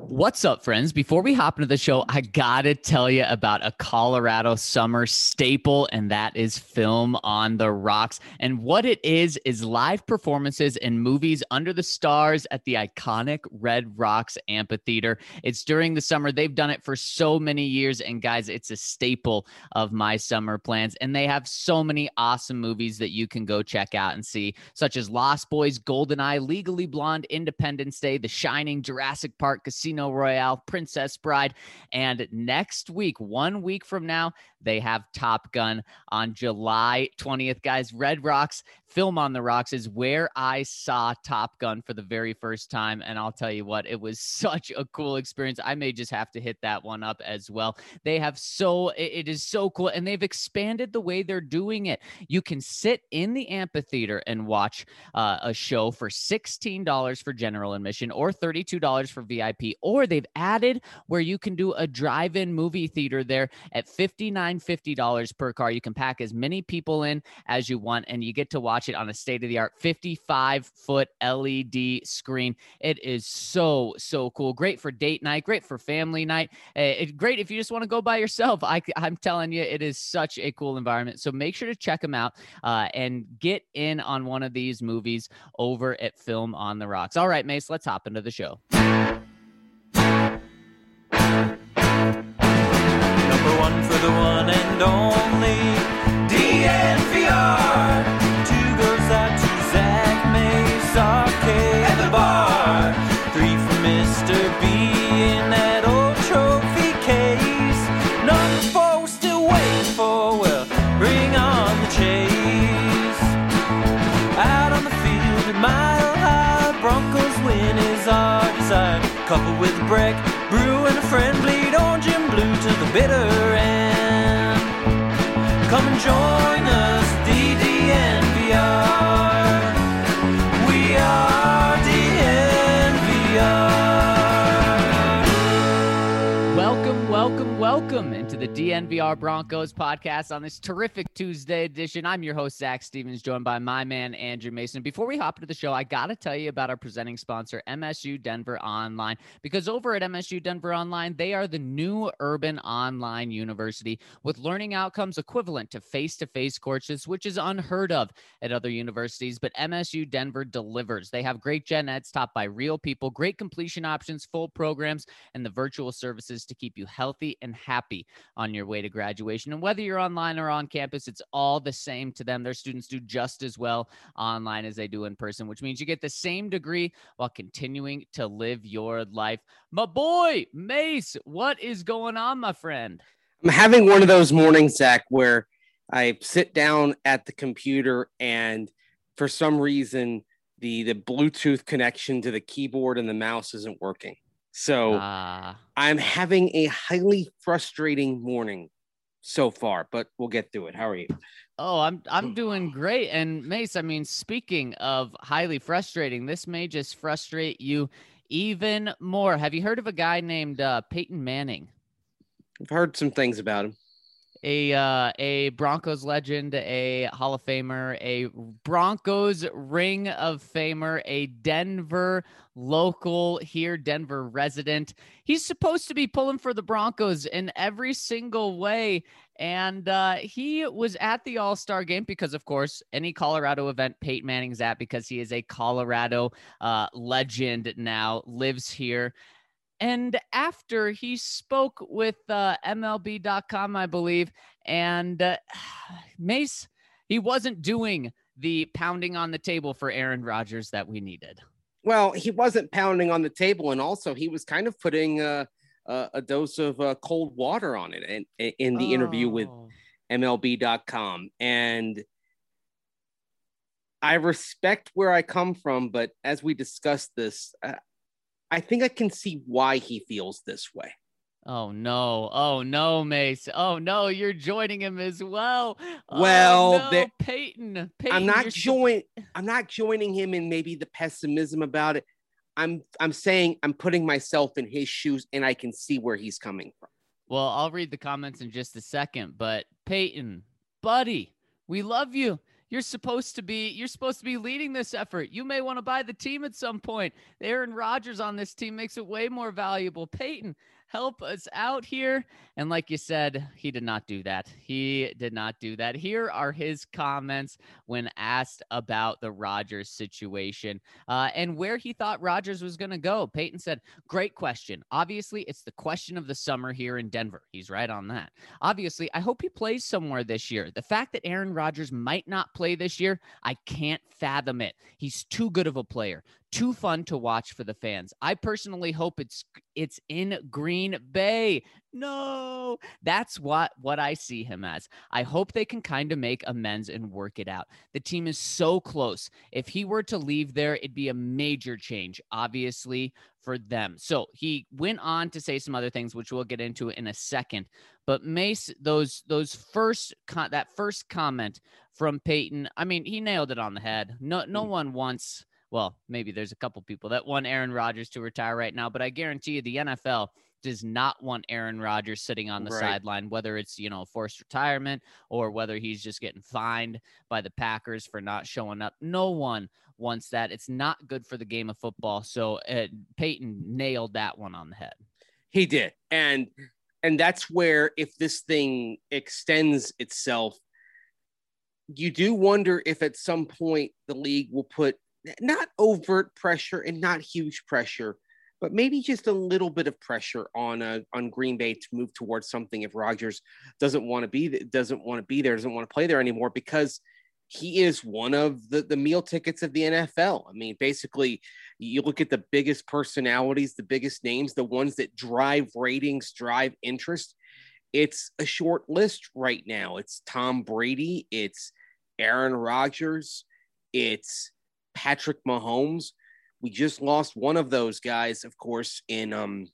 What's up, friends? Before we hop into the show, I gotta tell you about a Colorado summer staple, and that is Film on the Rocks. And what it is live performances and movies under the stars at the iconic Red Rocks Amphitheater. It's during the summer. They've done it for so many years, and guys, it's a staple of my summer plans. And they have so many awesome movies that you can go check out and see, such as Lost Boys, GoldenEye, Legally Blonde, Independence Day, The Shining, Jurassic Park, Casino Royale, Princess Bride, and next week, 1 week from now, they have Top Gun on July 20th. Guys, Red Rocks, Film on the Rocks is where I saw Top Gun for the very first time, and I'll tell you what, it was such a cool experience. I may just have to hit that one up as well. It is so cool, and they've expanded the way they're doing it. You can sit in the amphitheater and watch a show for $16 for general admission or $32 for VIP, or they've added where you can do a drive-in movie theater there at $59.50 per car. You can pack as many people in as you want, and you get to watch it on a state-of-the-art 55-foot LED screen. It is so cool. Great for date night, great for family night. Great if you just want to go by yourself. I'm telling you, it is such a cool environment. So make sure to check them out and get in on one of these movies over at Film on the Rocks. All right, Mace, let's hop into the show. Number one for the one and only DNVR. Two goes out to Zach Mace, Arcade, and the bar. Three for Mr. B in that old trophy case. Number four we're still waiting for, well, bring on the chase. Out on the field at Mile High, Broncos win is our desire. Couple with Breck, Brew and a friend, bleed orange and blue to the bitter end. Come and join us, DNVR. We are DNVR. Welcome into the DNVR Broncos podcast on this terrific Tuesday edition. I'm your host, Zach Stevens, joined by my man, Andrew Mason. Before we hop into the show, I got to tell you about our presenting sponsor, MSU Denver Online, because over at MSU Denver Online, they are the new urban online university with learning outcomes equivalent to face-to-face courses, which is unheard of at other universities, but MSU Denver delivers. They have great gen eds taught by real people, great completion options, full programs, and the virtual services to keep you healthy and happy on your way to graduation. And whether you're online or on campus, it's all the same to them. Their students do just as well online as they do in person, which means you get the same degree while continuing to live your life. My boy, Mace, what is going on, my friend? I'm having one of those mornings, Zach, where I sit down at the computer and for some reason the Bluetooth connection to the keyboard and the mouse isn't working. So I'm having a highly frustrating morning so far, but we'll get through it. How are you? Oh, I'm doing great. And Mace, I mean, speaking of highly frustrating, this may just frustrate you even more. Have you heard of a guy named Peyton Manning? I've heard some things about him. A Broncos legend, a Hall of Famer, a Broncos Ring of Famer, a Denver local here, Denver resident. He's supposed to be pulling for the Broncos in every single way. And he was at the All-Star game because, of course, any Colorado event Peyton Manning's at, because he is a Colorado legend now, lives here. And after he spoke with MLB.com, I believe, and Mace, he wasn't doing the pounding on the table for Aaron Rodgers that we needed. Well, he wasn't pounding on the table, and also he was kind of putting a dose of cold water on it in the interview with MLB.com. And I respect where I come from, but as we discussed this, I think I can see why he feels this way. Oh no, Mace. Oh no, you're joining him as well. Well, no, Peyton, I'm not joining him in maybe the pessimism about it. I'm saying I'm putting myself in his shoes and I can see where he's coming from. Well, I'll read the comments in just a second, but Peyton, buddy, we love you. You're supposed to be leading this effort. You may want to buy the team at some point. Aaron Rodgers on this team makes it way more valuable. Peyton, help us out here. And like you said, he did not do that. He did not do that. Here are his comments when asked about the Rodgers situation and where he thought Rodgers was going to go. Peyton said, "Great question. Obviously, it's the question of the summer here in Denver." He's right on that. "Obviously, I hope he plays somewhere this year. The fact that Aaron Rodgers might not play this year, I can't fathom it. He's too good of a player. Too fun to watch for the fans. I personally hope it's in Green Bay." No, that's what I see him as. I hope they can kind of make amends and work it out. The team is so close. If he were to leave there, it'd be a major change, obviously, for them. So he went on to say some other things, which we'll get into in a second. But Mace, that first comment from Peyton, I mean, he nailed it on the head. No one wants. Well, maybe there's a couple people that want Aaron Rodgers to retire right now, but I guarantee you the NFL does not want Aaron Rodgers sitting on the sideline, whether it's, forced retirement or whether he's just getting fined by the Packers for not showing up. No one wants that. It's not good for the game of football. So Peyton nailed that one on the head. He did. And that's where, if this thing extends itself, you do wonder if at some point the league will put not overt pressure and not huge pressure, but maybe just a little bit of pressure on Green Bay to move towards something if Rodgers doesn't want to be there, doesn't want to play there anymore, because he is one of the meal tickets of the NFL. I mean, basically, you look at the biggest personalities, the biggest names, the ones that drive ratings, drive interest. It's a short list right now. It's Tom Brady. It's Aaron Rodgers. It's Patrick Mahomes. We just lost one of those guys, of course, in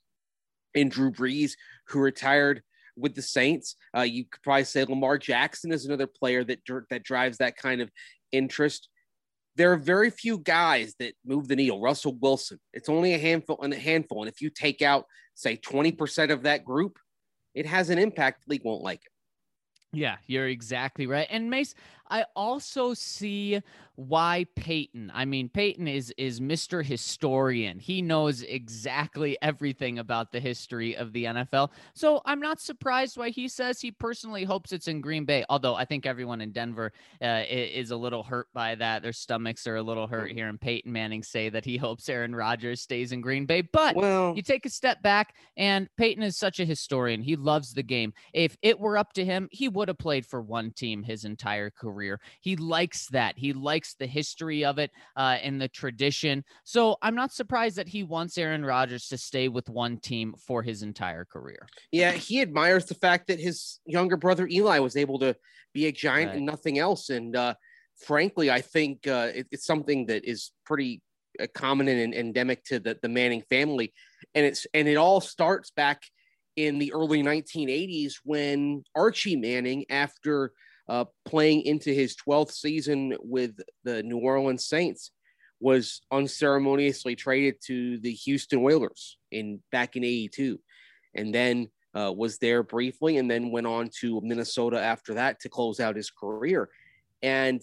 Drew Brees, who retired with the Saints. You could probably say Lamar Jackson is another player that drives that kind of interest. There are very few guys that move the needle. Russell Wilson, it's only a handful. And if you take out, say, 20% of that group, it has an impact. The league won't like it. Yeah, you're exactly right. And Mace, I also see why Peyton is Mr. Historian. He knows exactly everything about the history of the NFL. So I'm not surprised why he says he personally hopes it's in Green Bay. Although I think everyone in Denver is a little hurt by that. Their stomachs are a little hurt hearing Peyton Manning say that he hopes Aaron Rodgers stays in Green Bay. But you take a step back, and Peyton is such a historian. He loves the game. If it were up to him, he would have played for one team his entire career. He likes that. He likes the history of it and the tradition. So I'm not surprised that he wants Aaron Rodgers to stay with one team for his entire career. Yeah, he admires the fact that his younger brother Eli was able to be a giant and nothing else. And frankly, I think it's something that is pretty common and endemic to the Manning family. And it all starts back in the early 1980s when Archie Manning, after playing into his 12th season with the New Orleans Saints, was unceremoniously traded to the Houston Oilers back in 82, and then was there briefly, and then went on to Minnesota after that to close out his career. And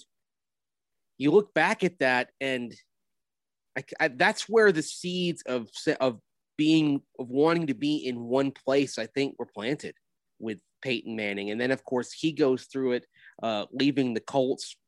you look back at that, and that's where the seeds of wanting to be in one place, I think, were planted with Peyton Manning. And then, of course, he goes through it, leaving the Colts.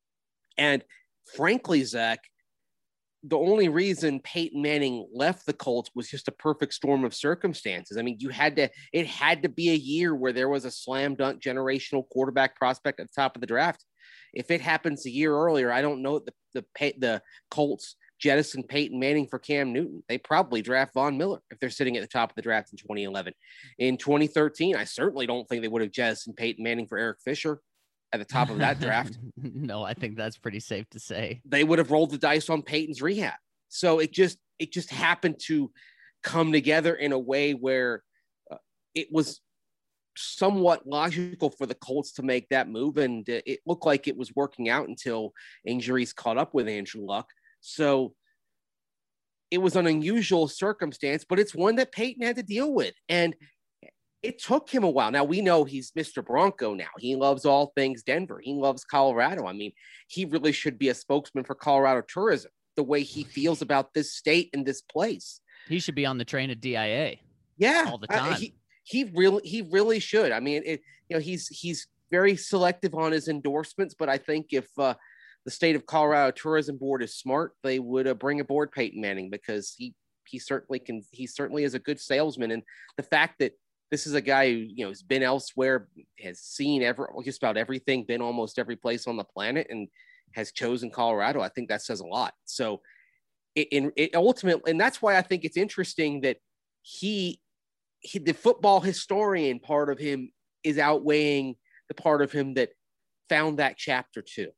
And frankly, Zach, the only reason Peyton Manning left the Colts was just a perfect storm of circumstances. I mean, it had to be a year where there was a slam dunk generational quarterback prospect at the top of the draft. If it happens a year earlier, I don't know the Colts jettison Peyton Manning for Cam Newton. They probably draft Von Miller if they're sitting at the top of the draft in 2011. In 2013, I certainly don't think they would have jettisoned Peyton Manning for Eric Fisher at the top of that draft. No, I think that's pretty safe to say. They would have rolled the dice on Peyton's rehab. So it just happened to come together in a way where it was somewhat logical for the Colts to make that move. And it looked like it was working out until injuries caught up with Andrew Luck. So it was an unusual circumstance, but it's one that Peyton had to deal with. And it took him a while. Now we know he's Mr. Bronco now. He loves all things Denver. He loves Colorado. I mean, he really should be a spokesman for Colorado tourism, the way he feels about this state and this place. He should be on the train at DIA. Yeah, all the time. He really should. I mean, he's very selective on his endorsements, but I think if the state of Colorado Tourism Board is smart, they would bring aboard Peyton Manning, because he certainly can. He certainly is a good salesman, and the fact that this is a guy who has been elsewhere, has seen just about everything, been almost every place on the planet, and has chosen Colorado, I think that says a lot. So it ultimately, and that's why I think it's interesting that he the football historian part of him is outweighing the part of him that found that chapter too.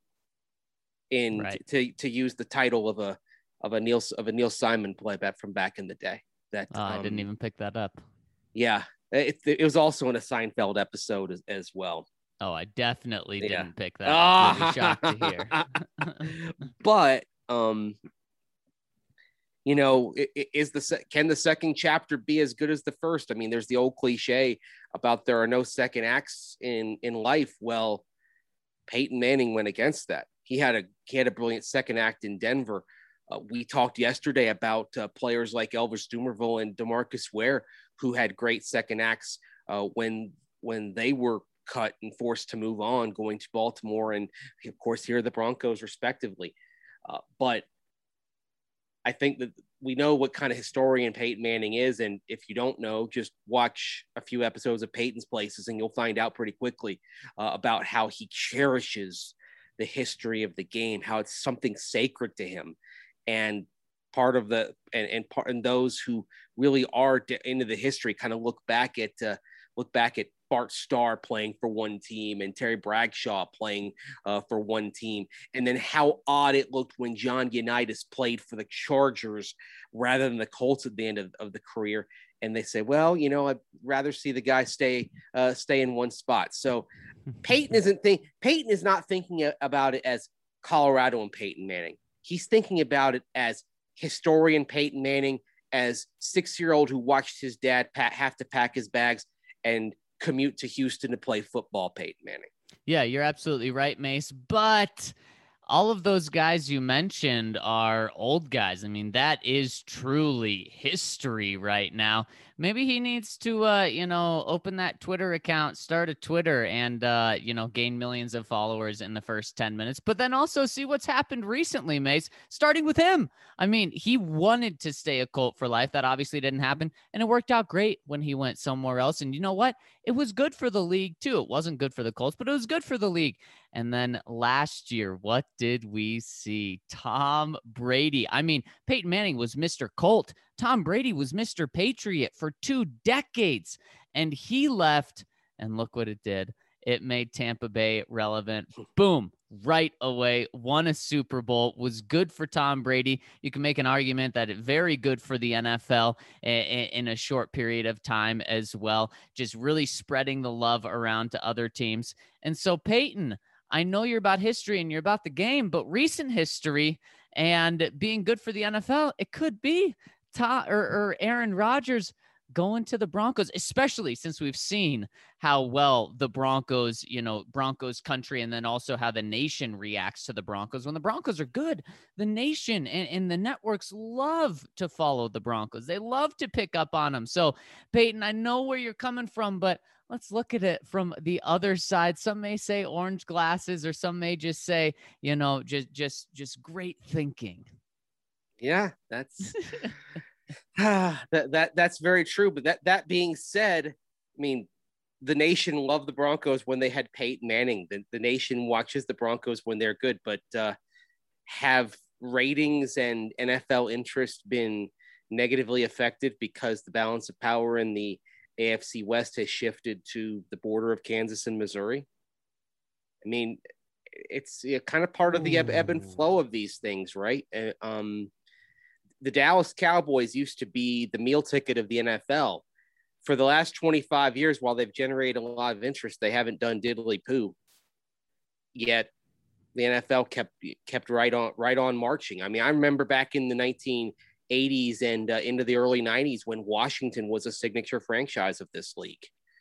To use the title of a Neil Simon play back from back in the day. That I didn't even pick that up. Yeah, it was also in a Seinfeld episode as well. Oh, I definitely didn't pick that up. I'd be shocked to hear. But can the second chapter be as good as the first? I mean, there's the old cliche about there are no second acts in life. Well, Peyton Manning went against that. He had a brilliant second act in Denver. We talked yesterday about players like Elvis Dumervil and DeMarcus Ware, who had great second acts when they were cut and forced to move on, going to Baltimore and, of course, here are the Broncos, respectively. But I think that we know what kind of historian Peyton Manning is. And if you don't know, just watch a few episodes of Peyton's Places and you'll find out pretty quickly about how he cherishes the history of the game, how it's something sacred to him. And part of and those who really are into the history kind of look back at Bart Starr playing for one team and Terry Bradshaw playing for one team. And then how odd it looked when John Unitas played for the Chargers rather than the Colts at the end of the career. And they say, well, I'd rather see the guy stay in one spot. So Peyton is not thinking about it as Colorado and Peyton Manning. He's thinking about it as historian Peyton Manning, as 6-year-old who watched his dad have to pack his bags and commute to Houston to play football, Peyton Manning. Yeah, you're absolutely right, Mace. But all of those guys you mentioned are old guys. I mean, that is truly history right now. Maybe he needs to, open that Twitter account, start a Twitter and, gain millions of followers in the first 10 minutes, but then also see what's happened recently, Mace, starting with him. I mean, he wanted to stay a Colt for life. That obviously didn't happen. And it worked out great when he went somewhere else. And you know what? It was good for the league too. It wasn't good for the Colts, but it was good for the league. And then last year, what did we see? Tom Brady. I mean, Peyton Manning was Mr. Colt. Tom Brady was Mr. Patriot for 2 decades. And he left, and look what it did. It made Tampa Bay relevant. Boom. Right away, won a Super Bowl, was good for Tom Brady. You can make an argument that it's very good for the NFL in a short period of time as well, just really spreading the love around to other teams. And so, Peyton, I know you're about history and you're about the game, but recent history and being good for the NFL, it could be Aaron Rodgers going to the Broncos, especially since we've seen how well the Broncos country, and then also how the nation reacts to the Broncos. When the Broncos are good, the nation and the networks love to follow the Broncos. They love to pick up on them. So, Peyton, I know where you're coming from, but let's look at it from the other side. Some may say orange glasses, or some may just say, just great thinking. Yeah, that's that's very true. But that being said, I mean, the nation loved the Broncos when they had Peyton Manning. The nation watches the Broncos when they're good. But have ratings and NFL interest been negatively affected because the balance of power in the AFC West has shifted to the border of Kansas and Missouri? I mean, it's kind of part of the ebb and flow of these things, right? The Dallas Cowboys used to be the meal ticket of the NFL. For the last 25 years, while they've generated a lot of interest, they haven't done diddly poo. Yet the NFL kept right on marching. I mean, I remember back in the 1980s and into the early 90s when Washington was a signature franchise of this league.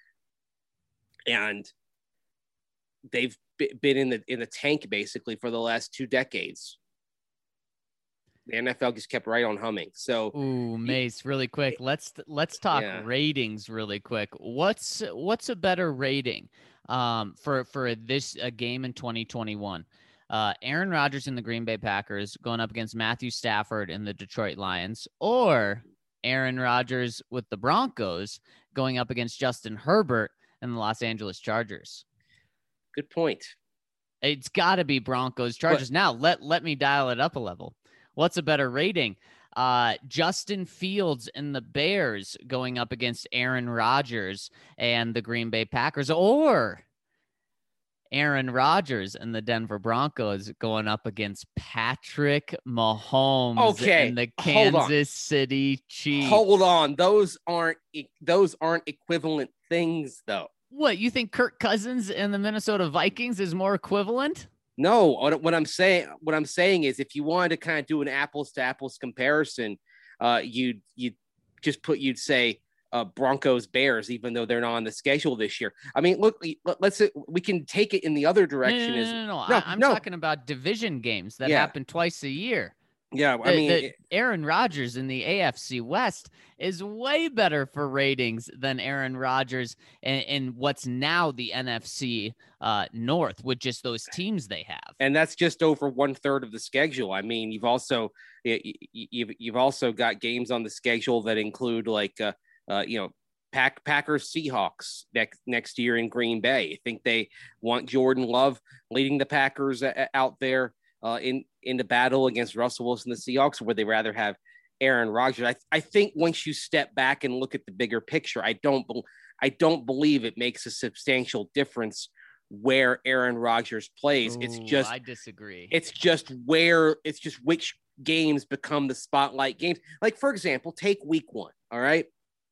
and they've been in the tank basically for the last 2 decades. The NFL just kept right on humming. So, ooh, Mace, really quick. Let's talk ratings really quick. What's a better rating for this game in 2021? Aaron Rodgers and the Green Bay Packers going up against Matthew Stafford and the Detroit Lions, or Aaron Rodgers with the Broncos going up against Justin Herbert and the Los Angeles Chargers? Good point. It's got to be Broncos Chargers. Now let me dial it up a level. What's a better rating? Justin Fields and the Bears going up against Aaron Rodgers and the Green Bay Packers, or Aaron Rodgers and the Denver Broncos going up against Patrick Mahomes and the Kansas City Chiefs? Hold on. Those aren't equivalent things, though. What, you think Kirk Cousins and the Minnesota Vikings is more equivalent? No, what I'm saying is, if you wanted to kind of do an apples to apples comparison, you'd say Broncos Bears, even though they're not on the schedule this year. I mean, look, we can take it in the other direction. No. I'm talking about division games that happen twice a year. Yeah, I mean, Aaron Rodgers in the AFC West is way better for ratings than Aaron Rodgers in what's now the NFC North, with just those teams they have. And that's just over 1/3 of the schedule. I mean, you've also got games on the schedule that include Packers Seahawks next year in Green Bay. I think they want Jordan Love leading the Packers out there in the battle against Russell Wilson, the Seahawks, or would they rather have Aaron Rodgers? I think once you step back and look at the bigger picture, I don't believe it makes a substantial difference where Aaron Rodgers plays. I disagree. It's just which games become the spotlight games. Like, for example, take week 1. All right.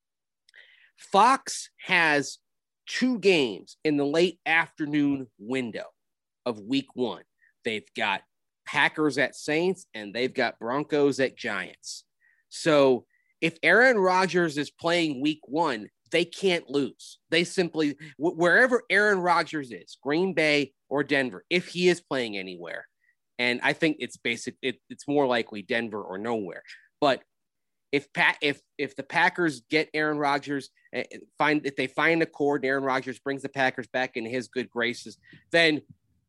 Fox has 2 games in the late afternoon window of week 1. They've got Packers at Saints, and they've got Broncos at Giants. So if Aaron Rodgers is playing week 1, they can't lose. They simply, wherever Aaron Rodgers is, Green Bay or Denver, if he is playing anywhere, and I think it's more likely Denver or nowhere. But if the Packers get Aaron Rodgers, if they find a chord, Aaron Rodgers brings the Packers back into his good graces, then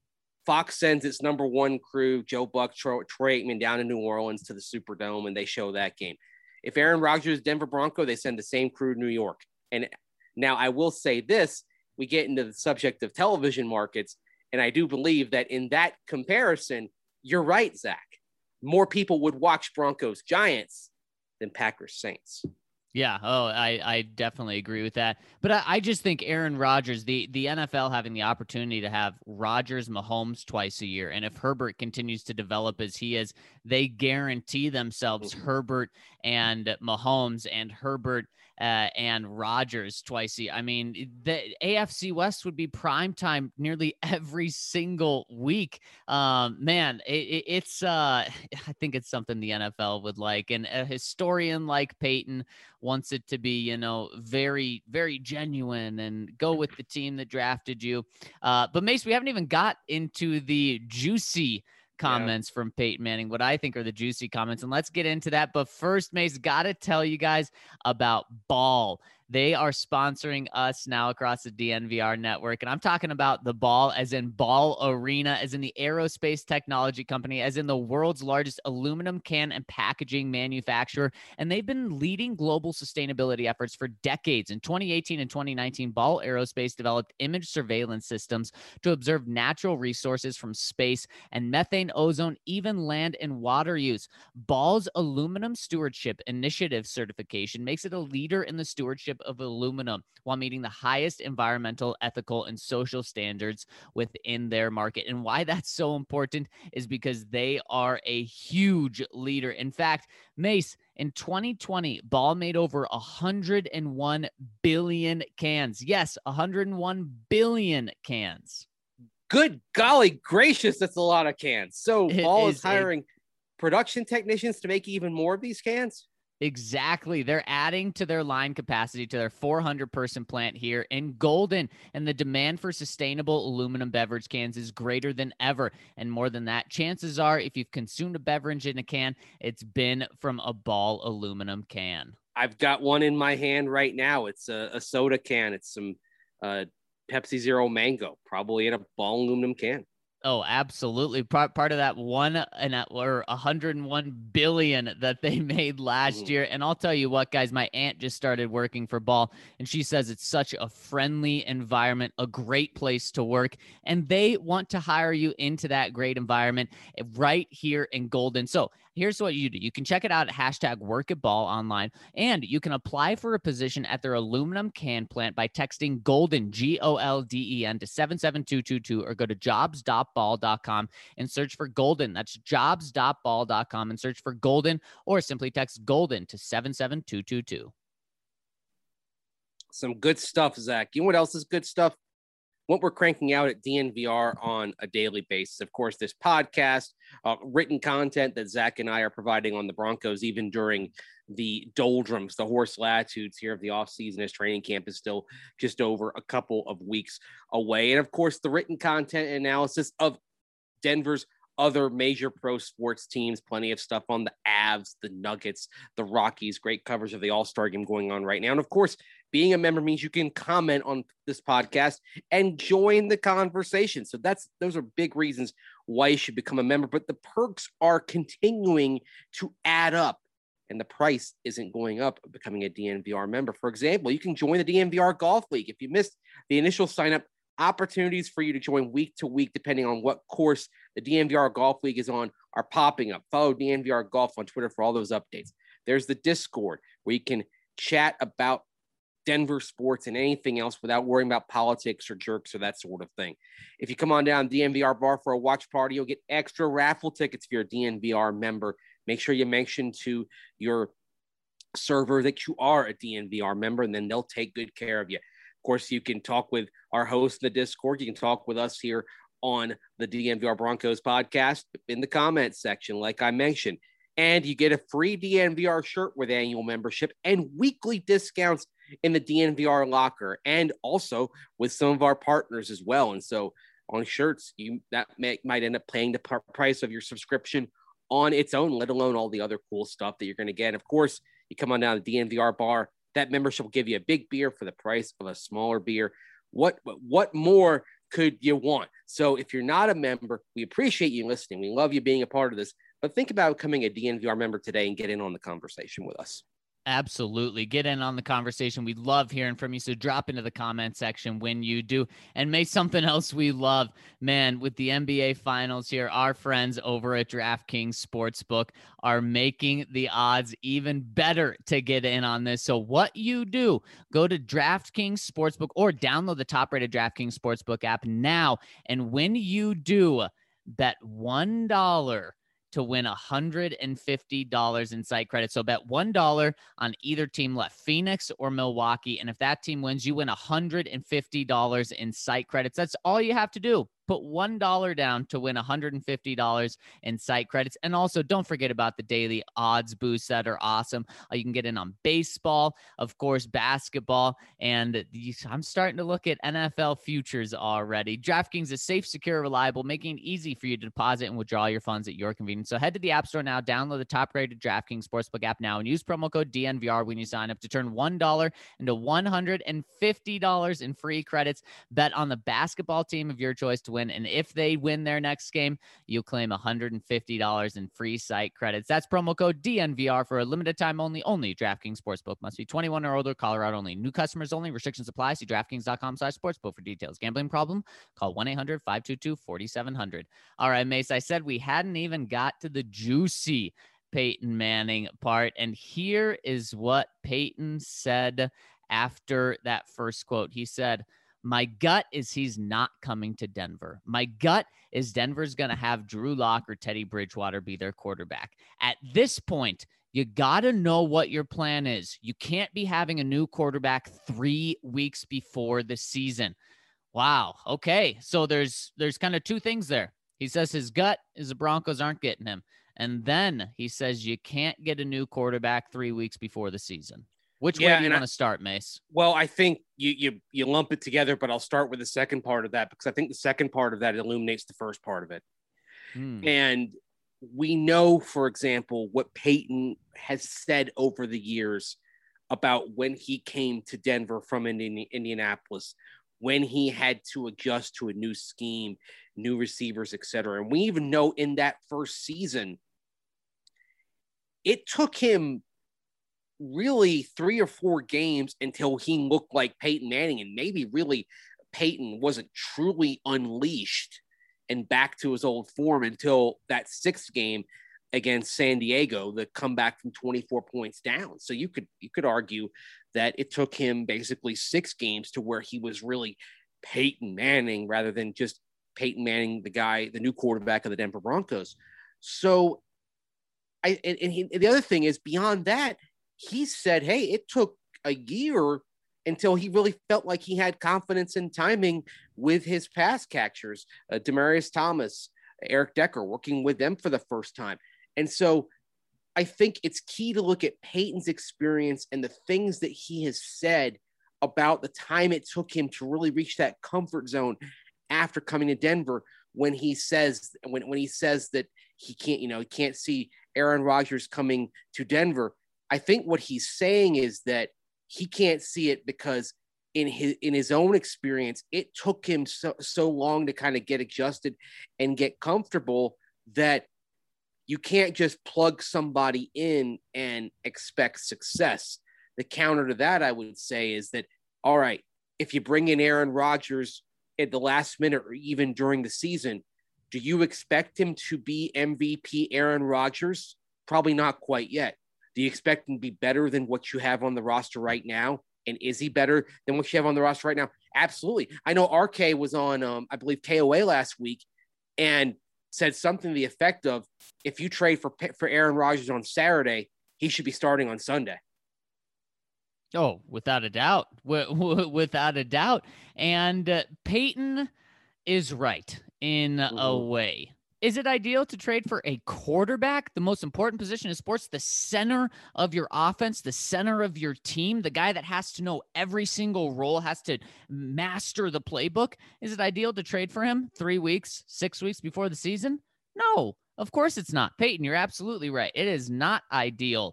Fox sends its number 1 crew, Joe Buck, Troy Aikman, down to New Orleans to the Superdome, and they show that game. If Aaron Rodgers is Denver Bronco, they send the same crew to New York. And now I will say this, we get into the subject of television markets, and I do believe that in that comparison, you're right, Zach. More people would watch Broncos Giants than Packers Saints. Yeah. Oh, I definitely agree with that. But I just think Aaron Rodgers, the NFL having the opportunity to have Rodgers, Mahomes twice a year, and if Herbert continues to develop as he is, they guarantee themselves Herbert and Mahomes and Herbert and Rodgers twice a year. I mean, the AFC West would be primetime nearly every single week. Man, it's I think it's something the NFL would like, and a historian like Peyton wants it to be, very, very genuine and go with the team that drafted you. But Mace, we haven't even got into the juicy comments from Peyton Manning, what I think are the juicy comments. And let's get into that. But first, Mace, got to tell you guys about Ball. They are sponsoring us now across the DNVR network. And I'm talking about the Ball as in Ball Arena, as in the aerospace technology company, as in the world's largest aluminum can and packaging manufacturer. And they've been leading global sustainability efforts for decades. In 2018 and 2019, Ball Aerospace developed image surveillance systems to observe natural resources from space and methane, ozone, even land and water use. Ball's Aluminum Stewardship Initiative certification makes it a leader in the stewardship of aluminum while meeting the highest environmental, ethical, and social standards within their market. And why that's so important is because they are a huge leader. In fact, Mace, in 2020, Ball made over 101 billion cans. Yes, 101 billion cans. Good golly gracious, that's a lot of cans. So Ball is hiring production technicians to make even more of these cans? Exactly. They're adding to their line capacity to their 400-person plant here in Golden, and the demand for sustainable aluminum beverage cans is greater than ever. And more than that, chances are if you've consumed a beverage in a can, it's been from a Ball aluminum can. I've got one in my hand right now. It's a soda can. It's some Pepsi Zero Mango, probably in a Ball aluminum can. Oh, absolutely. Part of that or 101 billion that they made last year. And I'll tell you what, guys, my aunt just started working for Ball, and she says it's such a friendly environment, a great place to work, and they want to hire you into that great environment right here in Golden. So here's what you do. You can check it out at #WorkAtBall online, and you can apply for a position at their aluminum can plant by texting GOLDEN, GOLDEN, to 77222, or go to jobs.ball.com and search for Golden. That's jobs.ball.com and search for Golden, or simply text Golden to 77222. Some good stuff, Zach. You know what else is good stuff? What we're cranking out at DNVR on a daily basis. Of course, this podcast, written content that Zach and I are providing on the Broncos, even during the doldrums, the horse latitudes here of the offseason, as training camp is still just over a couple of weeks away. And of course, the written content analysis of Denver's other major pro sports teams, plenty of stuff on the Avs, the Nuggets, the Rockies, great coverage of the All-Star game going on right now. And of course, being a member means you can comment on this podcast and join the conversation. So those are big reasons why you should become a member. But the perks are continuing to add up, and the price isn't going up becoming a DNVR member. For example, you can join the DNVR Golf League. If you missed the initial sign-up, opportunities for you to join week to week, depending on what course the DNVR Golf League is on, are popping up. Follow DNVR Golf on Twitter for all those updates. There's the Discord where you can chat about Denver sports and anything else without worrying about politics or jerks or that sort of thing. If you come on down to DNVR Bar for a watch party, you'll get extra raffle tickets if you're a DNVR member. Make sure you mention to your server that you are a DNVR member, and then they'll take good care of you. Of course, you can talk with our host in the Discord. You can talk with us here on the DNVR Broncos podcast in the comments section, like I mentioned. And you get a free DNVR shirt with annual membership and weekly discounts in the DNVR locker, and also with some of our partners as well. And so on shirts, might end up paying the price of your subscription on its own, let alone all the other cool stuff that you're going to get. And of course, you come on down to the DNVR Bar. That membership will give you a big beer for the price of a smaller beer. What more could you want? So if you're not a member, we appreciate you listening. We love you being a part of this, but think about becoming a DNVR member today and get in on the conversation with us. Absolutely. Get in on the conversation. We love hearing from you. So drop into the comment section when you do. And may something else we love, man, with the NBA finals here, our friends over at DraftKings Sportsbook are making the odds even better to get in on this. So what you do, go to DraftKings Sportsbook or download the top-rated DraftKings Sportsbook app now. And when you do, bet $1 to win $150 in site credit. So bet $1 on either team left, Phoenix or Milwaukee. And if that team wins, you win $150 in site credits. That's all you have to do. Put $1 down to win $150 in site credits. And also, don't forget about the daily odds boosts that are awesome. You can get in on baseball, of course, basketball, and I'm starting to look at NFL futures already. DraftKings is safe, secure, reliable, making it easy for you to deposit and withdraw your funds at your convenience. So head to the App Store now, download the top-rated DraftKings Sportsbook app now, and use promo code DNVR when you sign up to turn $1 into $150 in free credits. Bet on the basketball team of your choice to win. And if they win their next game, you'll claim $150 in free site credits. That's promo code DNVR for a limited time only. Only DraftKings Sportsbook. Must be 21 or older. Colorado only. New customers only. Restrictions apply. See DraftKings.com/sportsbook for details. Gambling problem? Call 1-800-522-4700. All right, Mace, I said we hadn't even got to the juicy Peyton Manning part. And here is what Peyton said after that first quote. He said, "My gut is he's not coming to Denver. My gut is Denver's going to have Drew Lock or Teddy Bridgewater be their quarterback. At this point, you got to know what your plan is. You can't be having a new quarterback 3 weeks before the season." Wow. Okay. So there's kind of two things there. He says his gut is the Broncos aren't getting him. And then he says you can't get a new quarterback 3 weeks before the season. Which way Yeah, do you and want to start, Mace? Well, I think you lump it together, but I'll start with the second part of that because I think the second part of that illuminates the first part of it. And we know, for example, what Peyton has said over the years about when he came to Denver from Indianapolis, when he had to adjust to a new scheme, new receivers, etc. And we even know in that first season, it took him really 3 or 4 games until he looked like Peyton Manning, and maybe really Peyton wasn't truly unleashed and back to his old form until that 6th game against San Diego, the comeback from 24 points down. So you could argue that it took him basically 6 games to where he was really Peyton Manning rather than just Peyton Manning, the new quarterback of the Denver Broncos. So the other thing is beyond that, he said, hey, it took a year until he really felt like he had confidence in timing with his pass catchers, Demaryius Thomas, Eric Decker, working with them for the first time. And so I think it's key to look at Peyton's experience and the things that he has said about the time it took him to really reach that comfort zone after coming to Denver when he says that he can't see Aaron Rodgers coming to Denver. I think what he's saying is that he can't see it because in his own experience, it took him so long to kind of get adjusted and get comfortable that you can't just plug somebody in and expect success. The counter to that, I would say, is that, all right, if you bring in Aaron Rodgers at the last minute or even during the season, do you expect him to be MVP Aaron Rodgers? Probably not quite yet. Do you expect him to be better than what you have on the roster right now? And is he better than what you have on the roster right now? Absolutely. I know RK was on, I believe, KOA last week and said something to the effect of, if you trade for Aaron Rodgers on Saturday, he should be starting on Sunday. Oh, without a doubt. Without a doubt. And Peyton is right in a way. Is it ideal to trade for a quarterback, the most important position in sports, the center of your offense, the center of your team, the guy that has to know every single role, has to master the playbook? Is it ideal to trade for him 3 weeks, 6 weeks before the season? No, of course it's not. Peyton, you're absolutely right. It is not ideal.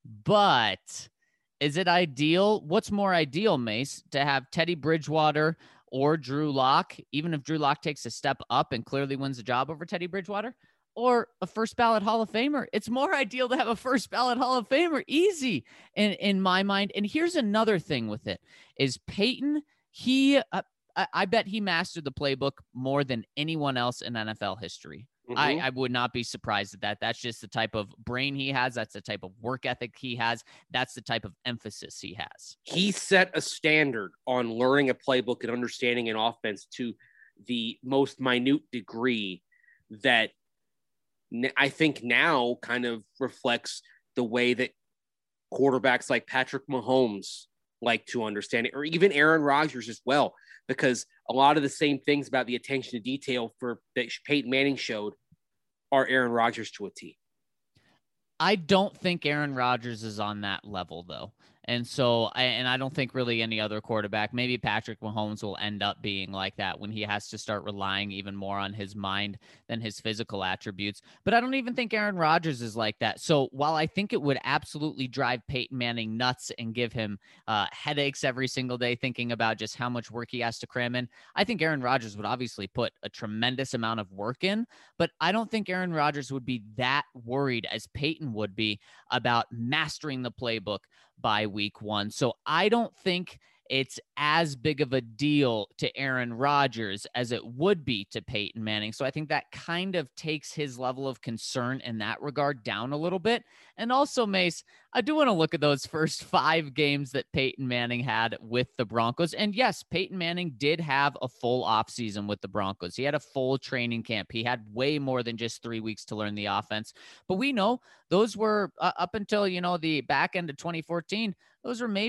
But is it ideal? What's more ideal, Mace, to have Teddy Bridgewater or Drew Lock, even if Drew Lock takes a step up and clearly wins the job over Teddy Bridgewater, or a first ballot Hall of Famer? It's more ideal to have a first ballot Hall of Famer. Easy in my mind. And here's another thing with it is Peyton, I bet he mastered the playbook more than anyone else in NFL history. I would not be surprised at that. That's just the type of brain he has. That's the type of work ethic he has. That's the type of emphasis he has. He set a standard on learning a playbook and understanding an offense to the most minute degree that I think now kind of reflects the way that quarterbacks like Patrick Mahomes like to understand it, or even Aaron Rodgers as well, because a lot of the same things about the attention to detail that Peyton Manning showed are Aaron Rodgers to a T. I don't think Aaron Rodgers is on that level, though. And so, I don't think really any other quarterback, maybe Patrick Mahomes, will end up being like that when he has to start relying even more on his mind than his physical attributes. But I don't even think Aaron Rodgers is like that. So while I think it would absolutely drive Peyton Manning nuts and give him headaches every single day thinking about just how much work he has to cram in, I think Aaron Rodgers would obviously put a tremendous amount of work in. But I don't think Aaron Rodgers would be that worried as Peyton would be about mastering the playbook by week 1. So I don't think it's as big of a deal to Aaron Rodgers as it would be to Peyton Manning. So I think that kind of takes his level of concern in that regard down a little bit. And also, Mace, I do want to look at those first 5 games that Peyton Manning had with the Broncos. And yes, Peyton Manning did have a full offseason with the Broncos. He had a full training camp. He had way more than just 3 weeks to learn the offense. But we know those were up until, the back end of 2014, those were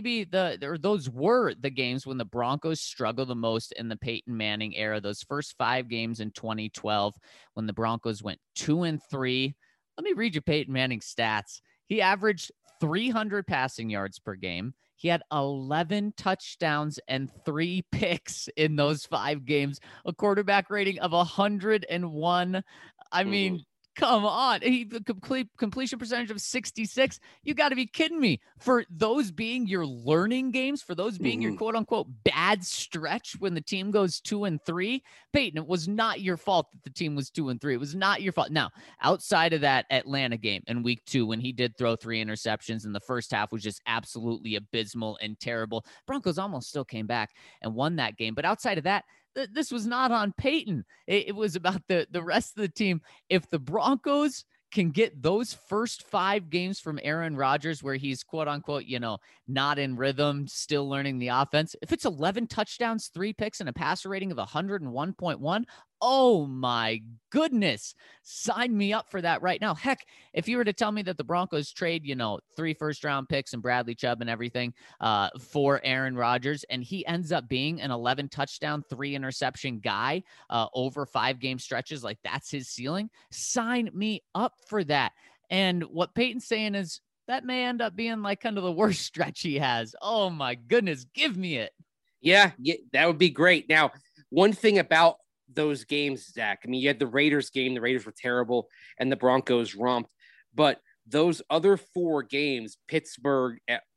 the games when the Broncos struggled the most in the Peyton Manning era. Those first 5 games in 2012, when the Broncos went 2-3. Let me read you Peyton Manning's stats. He averaged 300 passing yards per game. He had 11 touchdowns and 3 picks in those 5 games, a quarterback rating of 101. I mean, come on. The completion percentage of 66. You got to be kidding me. For those being your learning games, for those being your quote unquote bad stretch when the team goes 2-3, Peyton, it was not your fault that the team was 2-3. It was not your fault. Now, outside of that Atlanta game in week 2, when he did throw 3 interceptions and the first half was just absolutely abysmal and terrible, Broncos almost still came back and won that game. But outside of that, this was not on Peyton. It was about the rest of the team. If the Broncos can get those first 5 games from Aaron Rodgers where he's quote unquote, not in rhythm, still learning the offense. If it's 11 touchdowns, 3 picks, and a passer rating of 101.1, oh my goodness, sign me up for that right now. Heck, if you were to tell me that the Broncos trade, 3 first-round picks and Bradley Chubb and everything for Aaron Rodgers, and he ends up being an 11 touchdown, 3 interception guy over 5 game stretches, like that's his ceiling, sign me up for that. And what Peyton's saying is that may end up being like kind of the worst stretch he has. Oh my goodness, give me it. Yeah, that would be great. Now, one thing about those games, Zach, I mean, you had the Raiders game. The Raiders were terrible and the Broncos romped. But those other 4 games, Pittsburgh,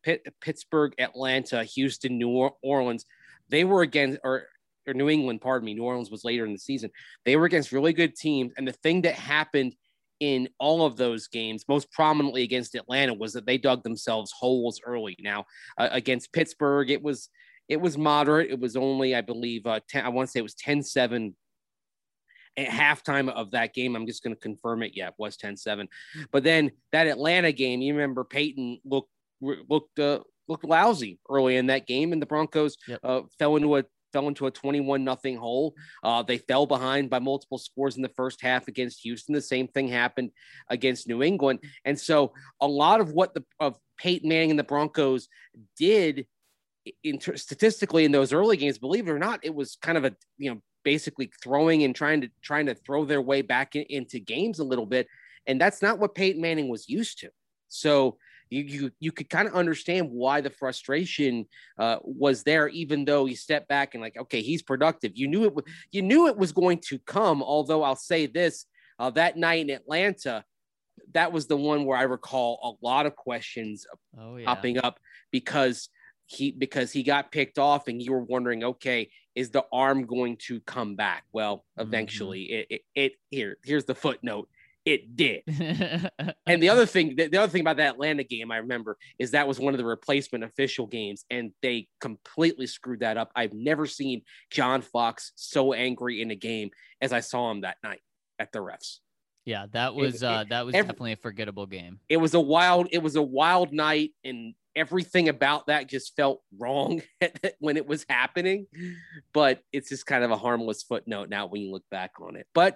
Atlanta, Houston, New Orleans, they were against, or New England, pardon me. New Orleans was later in the season. They were against really good teams. And the thing that happened in all of those games, most prominently against Atlanta, was that they dug themselves holes early. Now, against Pittsburgh, it was moderate. It was only, I believe, I want to say it was 10-7 at halftime of that game. I'm just going to confirm it. Yeah, it was 10-7. But then that Atlanta game, you remember Peyton looked lousy early in that game, and the Broncos fell into a 21-0 hole. They fell behind by multiple scores in the first half against Houston. The same thing happened against New England. And so a lot of what of Peyton Manning and the Broncos did statistically in those early games, believe it or not, it was kind of a, basically throwing and trying to throw their way back into games a little bit. And that's not what Peyton Manning was used to. So you could kind of understand why the frustration was there, even though he stepped back and like, okay, he's productive. You knew it was going to come. Although I'll say this, that night in Atlanta, that was the one where I recall a lot of questions popping up because he got picked off and you were wondering, okay, is the arm going to come back? Well, eventually here's the footnote. It did. And the other thing about that Atlanta game, I remember, is that was one of the replacement official games and they completely screwed that up. I've never seen John Fox so angry in a game as I saw him that night at the refs. Yeah, that was definitely a forgettable game. It was a wild night, and everything about that just felt wrong when it was happening. But it's just kind of a harmless footnote now when you look back on it. But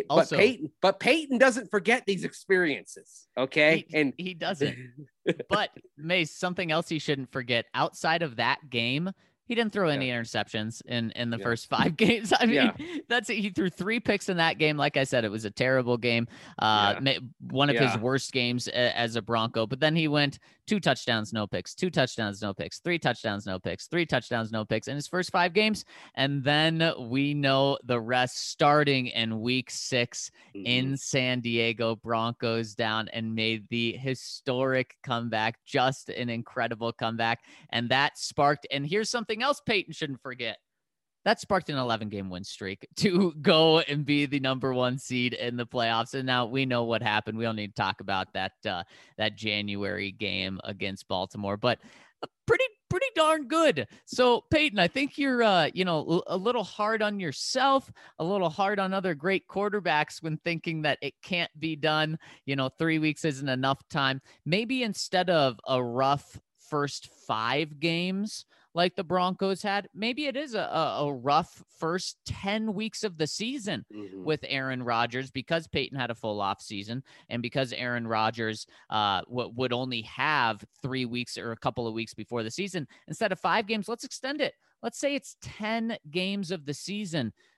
Peyton doesn't forget these experiences. Okay, he doesn't. But Mace, something else he shouldn't forget outside of that game. He didn't throw any interceptions in the first 5 games. I mean, that's it. He threw 3 picks in that game. Like I said, it was a terrible game. One of his worst games as a Bronco. But then he went 2 touchdowns, no picks, 2 touchdowns, no picks, 3 touchdowns, no picks, 3 touchdowns, no picks in his first 5 games. And then we know the rest, starting in week 6 in San Diego. Broncos down and made the historic comeback, just an incredible comeback. And that sparked, and here's something else Peyton shouldn't forget. That sparked an 11-game win streak to go and be the number 1 seed in the playoffs. And now we know what happened. We don't need to talk about that January game against Baltimore, but pretty darn good. So Peyton, I think you're a little hard on yourself, a little hard on other great quarterbacks when thinking that it can't be done. 3 weeks isn't enough time. Maybe instead of a rough first 5 games like the Broncos had, maybe it is a rough first 10 weeks of the season with Aaron Rodgers, because Peyton had a full off season and because Aaron Rodgers would only have 3 weeks or a couple of weeks before the season. Instead of 5 games, let's extend it. Let's say it's 10 games of the season.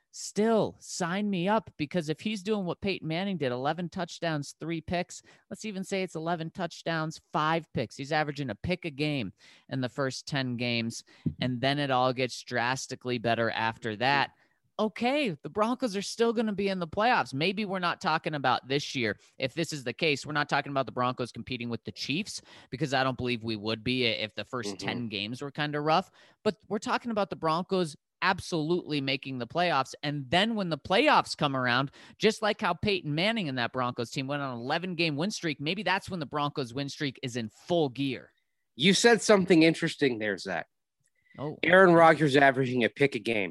still sign me up, because if he's doing what Peyton Manning did, 11 touchdowns, 3 picks, let's even say it's 11 touchdowns, 5 picks. He's averaging a pick a game in the first 10 games, and then it all gets drastically better after that. Okay, the Broncos are still going to be in the playoffs. Maybe we're not talking about this year. If this is the case, we're not talking about the Broncos competing with the Chiefs, because I don't believe we would be if the first 10 games were kind of rough. But we're talking about the Broncos absolutely making the playoffs. And then when the playoffs come around, just like how Peyton Manning and that Broncos team went on an 11-game win streak, maybe that's when the Broncos win streak is in full gear. You said something interesting there, Zach. Oh, Aaron Rodgers averaging a pick a game.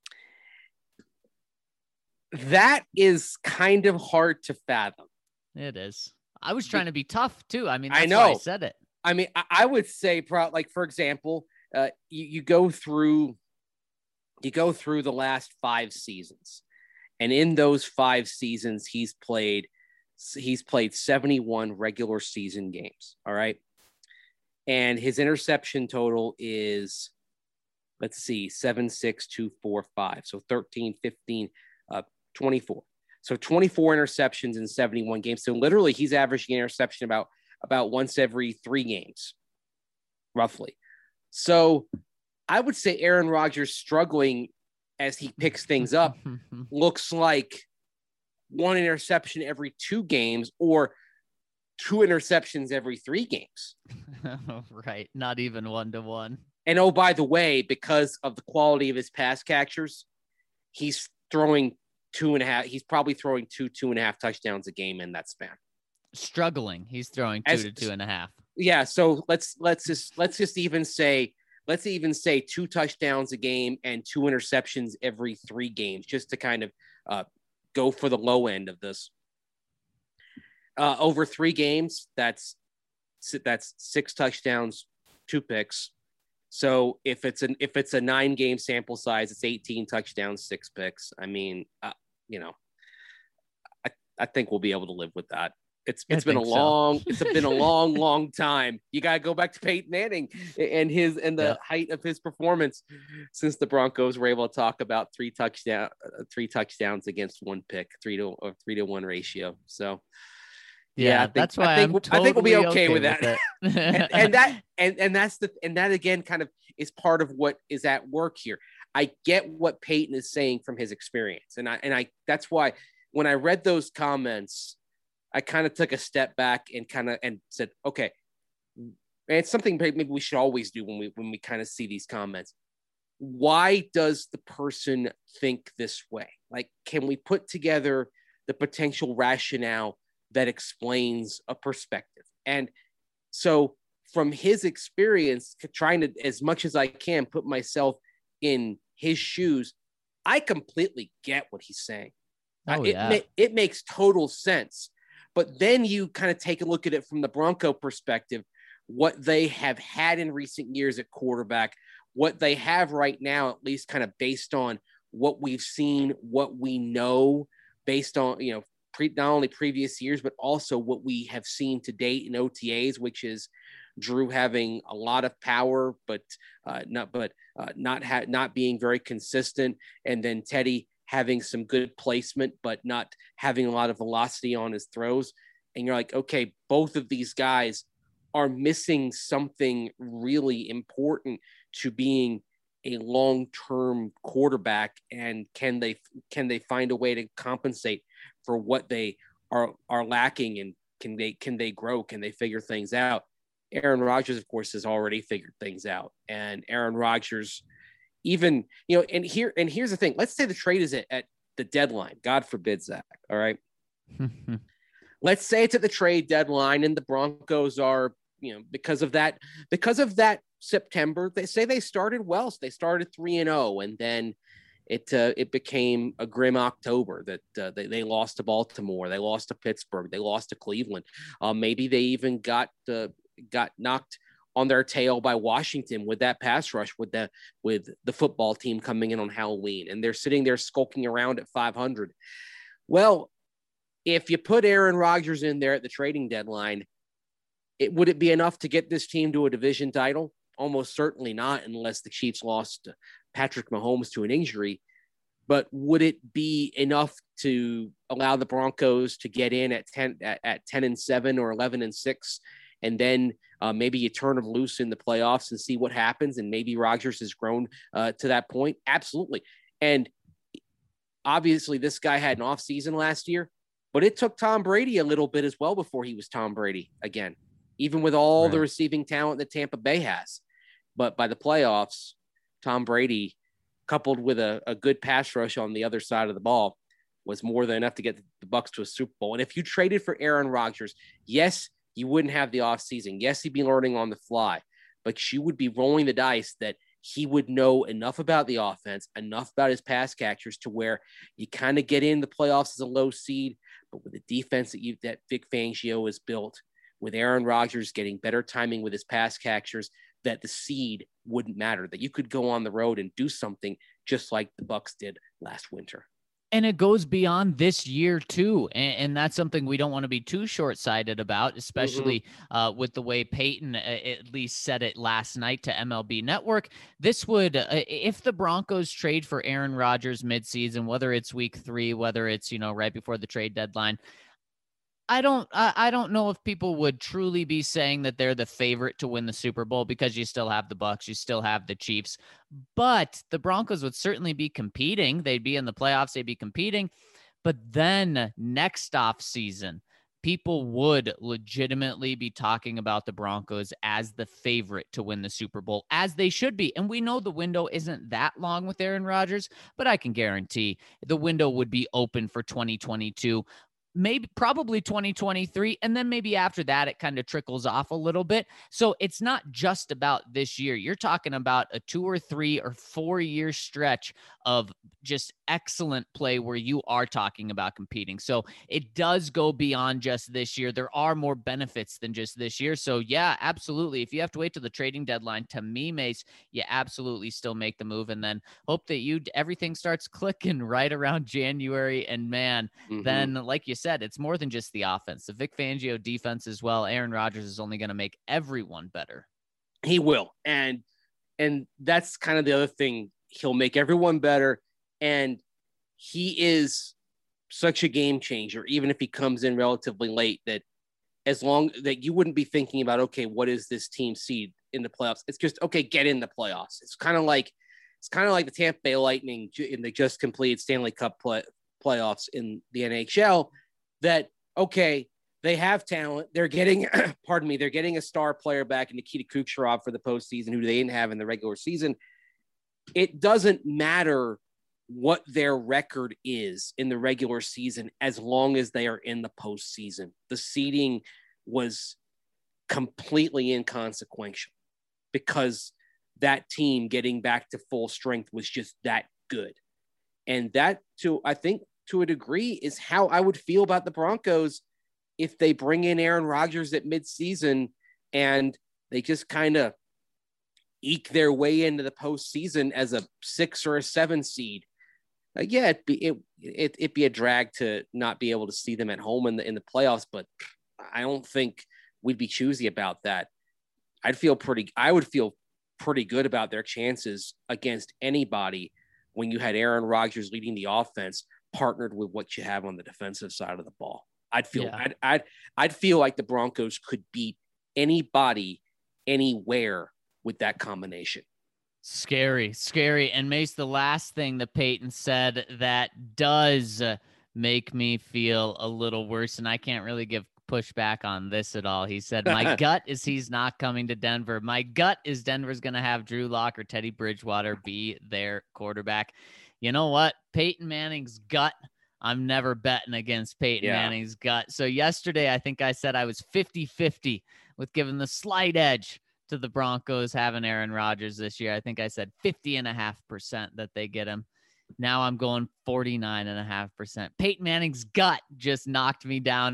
That is kind of hard to fathom. it is. I was trying to be tough too. I mean, I that's know. why I said it. I mean, I would say, like, for example, you go through the last 5 seasons, and in those 5 seasons, he's played 71 regular season games. All right. And his interception total is, let's see, 7, 6, 2, 4, 5. So 13, 15, 24. So 24 interceptions in 71 games. So literally he's averaging an interception about once every 3 games, roughly. So I would say Aaron Rodgers struggling as he picks things up looks like 1 interception every 2 games, or 2 interceptions every 3 games. Right. Not even 1-to-1. And oh, by the way, because of the quality of his pass catchers, he's throwing 2.5. He's probably throwing 2.5 touchdowns a game in that span. Struggling. He's throwing 2 to 2.5. Yeah. So let's just even say 2 touchdowns a game and 2 interceptions every 3 games, just to kind of go for the low end of this. Over 3 games, that's 6 touchdowns, 2 picks. So if it's a 9-game sample size, it's 18 touchdowns, 6 picks. I mean, I think we'll be able to live with that. It's been a long time. You got to go back to Peyton Manning and the height of his performance, since the Broncos were able to talk about 3 touchdowns against 1 pick, 3-to-1 ratio. So. Yeah, that's why I think we'll be okay with that. and that again kind of is part of what is at work here. I get what Peyton is saying from his experience, and I that's why when I read those comments, I kind of took a step back and said, okay, and it's something maybe we should always do when we kind of see these comments. Why does the person think this way? Like, can we put together the potential rationale that explains a perspective? And so from his experience, trying to, as much as I can, put myself in his shoes, I completely get what he's saying. It makes total sense. But then you kind of take a look at it from the Bronco perspective, what they have had in recent years at quarterback, what they have right now, at least kind of based on what we've seen, what we know, based on, not only previous years, but also what we have seen to date in OTAs, which is Drew having a lot of power, but not being very consistent. And then Teddy having some good placement, but not having a lot of velocity on his throws. And you're like, okay, both of these guys are missing something really important to being a long-term quarterback. And can they find a way to compensate for what they are lacking, and can they grow? Can they figure things out? Aaron Rodgers, of course, has already figured things out. And Aaron Rodgers, even, and here's the thing. Let's say the trade is at the deadline. God forbid, Zach. All right. Let's say it's at the trade deadline, and the Broncos are, because of that September, they say they started well. So they started 3-0, and then it became a grim October that they lost to Baltimore, they lost to Pittsburgh, they lost to Cleveland. Maybe they even got knocked on their tail by Washington with that pass rush with the football team coming in on Halloween, and they're sitting there skulking around at 500. Well, if you put Aaron Rodgers in there at the trading deadline, would it be enough to get this team to a division title? Almost certainly not, unless the Chiefs lost Patrick Mahomes to an injury. but would it be enough to allow the Broncos to get in at 10-7 or 11-6, and then maybe you turn them loose in the playoffs and see what happens, and maybe Rodgers has grown to that point? Absolutely. And obviously, this guy had an off season last year, but it took Tom Brady a little bit as well before he was Tom Brady again, even with all the receiving talent that Tampa Bay has. But by the playoffs, Tom Brady, coupled with a good pass rush on the other side of the ball, was more than enough to get the Bucs to a Super Bowl. And if you traded for Aaron Rodgers, yes, you wouldn't have the offseason. Yes, he'd be learning on the fly, but you would be rolling the dice that he would know enough about the offense, enough about his pass catchers to where you kind of get in the playoffs as a low seed, but with the defense that Vic Fangio has built, with Aaron Rodgers getting better timing with his pass catchers, that the seed wouldn't matter, that you could go on the road and do something just like the Bucs did last winter. And it goes beyond this year too. And that's something we don't want to be too short-sighted about, especially with the way Peyton at least said it last night to MLB Network. This would, if the Broncos trade for Aaron Rodgers midseason, whether it's week 3, whether it's, right before the trade deadline, I don't know if people would truly be saying that they're the favorite to win the Super Bowl, because you still have the Bucs, you still have the Chiefs, but the Broncos would certainly be competing. They'd be in the playoffs, they'd be competing. But then next off season, people would legitimately be talking about the Broncos as the favorite to win the Super Bowl, as they should be. And we know the window isn't that long with Aaron Rodgers, but I can guarantee the window would be open for 2022. Probably 2023. And then maybe after that, it kind of trickles off a little bit. So it's not just about this year. You're talking about a 2 or 3 or 4 year stretch of just excellent play where you are talking about competing. So it does go beyond just this year. There are more benefits than just this year. So yeah, absolutely. If you have to wait till the trading deadline, to me, Mace, you absolutely still make the move, and then hope that everything starts clicking right around January. And man, then like you said, it's more than just the offense. The Vic Fangio defense as well. Aaron Rodgers is only going to make everyone better. He will. And that's kind of the other thing. He'll make everyone better. And he is such a game changer, even if he comes in relatively late, that as long that you wouldn't be thinking about, okay, what is this team seed in the playoffs? It's just, okay, get in the playoffs. It's kind of like the Tampa Bay Lightning in the just completed Stanley Cup playoffs in the NHL, that, okay, they have talent. They're getting, they're getting a star player back in Nikita Kucherov for the postseason, who they didn't have in the regular season. It doesn't matter what their record is in the regular season as long as they are in the postseason. The seeding was completely inconsequential because that team getting back to full strength was just that good. And that, I think, to a degree, is how I would feel about the Broncos if they bring in Aaron Rodgers at midseason and they just kind of eke their way into the postseason as a 6 or a 7 seed. Yeah, it'd be a drag to not be able to see them at home in the playoffs, but I don't think we'd be choosy about that. I would feel pretty good about their chances against anybody when you had Aaron Rodgers leading the offense, partnered with what you have on the defensive side of the ball. I'd feel like the Broncos could beat anybody, anywhere with that combination. Scary. And Mace, the last thing that Peyton said that does make me feel a little worse, and I can't really give pushback on this at all. He said, my gut is he's not coming to Denver. My gut is Denver's going to have Drew Lock or Teddy Bridgewater be their quarterback. You know what? Peyton Manning's gut, I'm never betting against Peyton Manning's gut. So yesterday, I think I said I was 50-50 with giving the slight edge to the Broncos having Aaron Rodgers this year. I think I said 50.5% that they get him. Now I'm going 49.5%. Peyton Manning's gut just knocked me down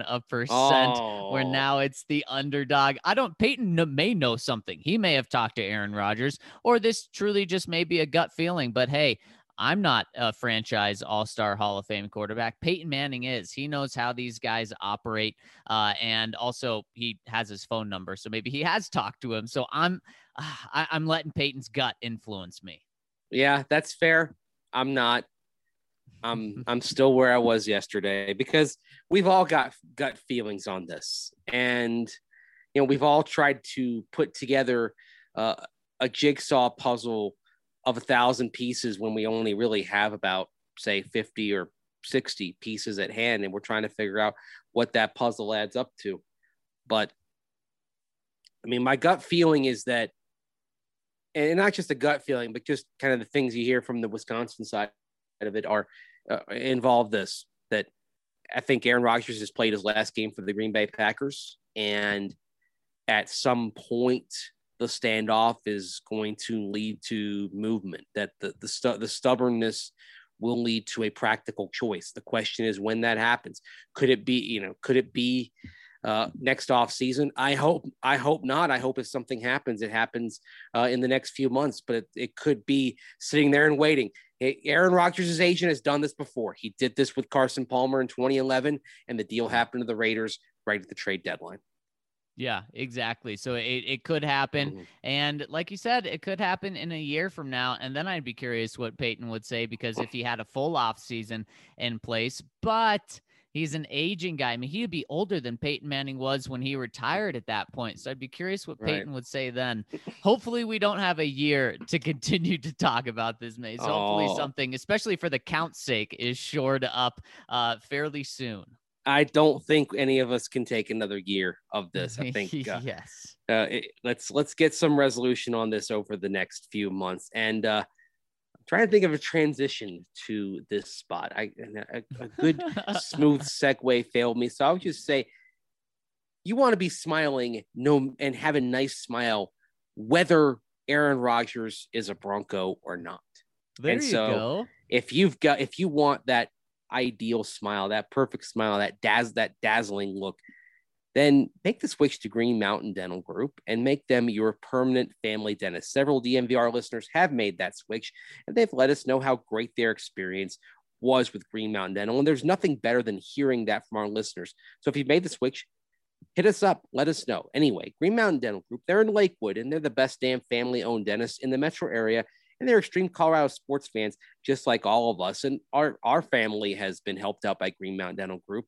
1%, where now it's the underdog. Peyton may know something. He may have talked to Aaron Rodgers, or this truly just may be a gut feeling, but hey, I'm not a franchise all-star Hall of Fame quarterback. Peyton Manning is. He knows how these guys operate. And also he has his phone number. So maybe he has talked to him. So I'm letting Peyton's gut influence me. Yeah, that's fair. I'm not. I'm still where I was yesterday because we've all got gut feelings on this, and we've all tried to put together a jigsaw puzzle of 1,000 pieces when we only really have about, say, 50 or 60 pieces at hand, and we're trying to figure out what that puzzle adds up to. But I mean, my gut feeling is that, and not just a gut feeling, but just kind of the things you hear from the Wisconsin side of it are involve this, that I think Aaron Rodgers has played his last game for the Green Bay Packers, and at some point the standoff is going to lead to movement, that the stubbornness will lead to a practical choice. The question is when that happens. Could it be next off season? I hope not. I hope if something happens, it happens in the next few months, but it could be sitting there and waiting. Aaron Rodgers' agent has done this before. He did this with Carson Palmer in 2011, and the deal happened to the Raiders right at the trade deadline. Yeah, exactly. So it could happen. Mm-hmm. And like you said, it could happen in a year from now. And then I'd be curious what Peyton would say, because if he had a full off season in place, but he's an aging guy. I mean, he'd be older than Peyton Manning was when he retired at that point. So I'd be curious what Peyton would say then. Hopefully we don't have a year to continue to talk about this, Mace. Hopefully something, especially for the count's sake, is shored up fairly soon. I don't think any of us can take another year of this. I think yes. Let's get some resolution on this over the next few months. And I'm trying to think of a transition to this spot. A good smooth segue failed me. So I would just say, you want to be smiling and have a nice smile, whether Aaron Rodgers is a Bronco or not. There you go. If you want that ideal smile, that perfect smile, that dazzling look, then make the switch to Green Mountain Dental Group and make them your permanent family dentist. Several DNVR listeners have made that switch, and they've let us know how great their experience was with Green Mountain Dental. And there's nothing better than hearing that from our listeners. So if you've made the switch, hit us up. Let us know. Anyway, Green Mountain Dental Group, they're in Lakewood, and they're the best damn family-owned dentist in the metro area. And they're extreme Colorado sports fans, just like all of us. And our family has been helped out by Green Mountain Dental Group.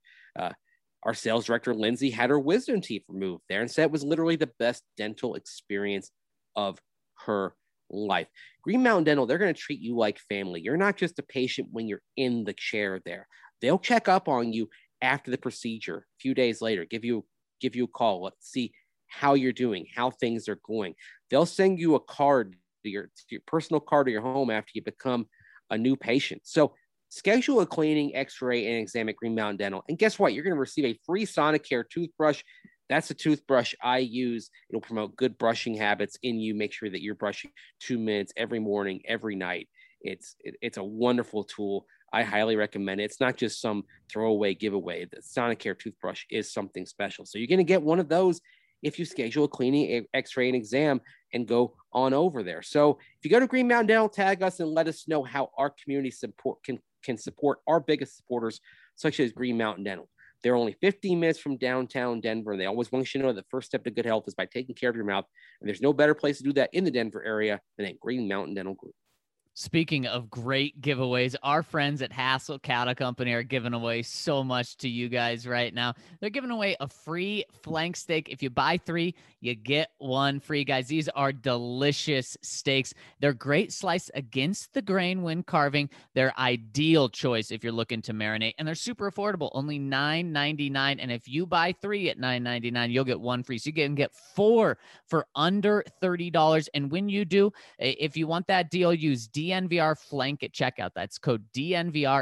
Our sales director, Lindsay, had her wisdom teeth removed there and said it was literally the best dental experience of her life. Green Mountain Dental, they're going to treat you like family. You're not just a patient when you're in the chair there. They'll check up on you after the procedure, a few days later, give you a call. Let's see how you're doing, how things are going. They'll send you a card, your personal card to your home after you become a new patient. So schedule a cleaning, x-ray, and exam at Green Mountain Dental. And guess what? You're going to receive a free Sonicare toothbrush. That's a toothbrush I use. It'll promote good brushing habits in you. Make sure that you're brushing 2 minutes every morning, every night. It's a wonderful tool. I highly recommend it. It's not just some throwaway giveaway. The Sonicare toothbrush is something special. So you're going to get one of those if you schedule a cleaning, x-ray, and exam and go on over there. So if you go to Green Mountain Dental, tag us and let us know how our community support can support our biggest supporters, such as Green Mountain Dental. They're only 15 minutes from downtown Denver, and they always want you to know the first step to good health is by taking care of your mouth. And there's no better place to do that in the Denver area than at Green Mountain Dental Group. Speaking of great giveaways, our friends at Hassel Cattle Company are giving away so much to you guys right now. They're giving away a free flank steak. If you buy 3, you get 1 free, guys. These are delicious steaks. They're great slice against the grain when carving. They're ideal choice if you're looking to marinate, and they're super affordable, only $9.99. And if you buy 3 at $9.99, you'll get 1 free. So you can get 4 for under $30. And when you do, if you want that deal, use DNVR Flank at checkout. That's code DNVR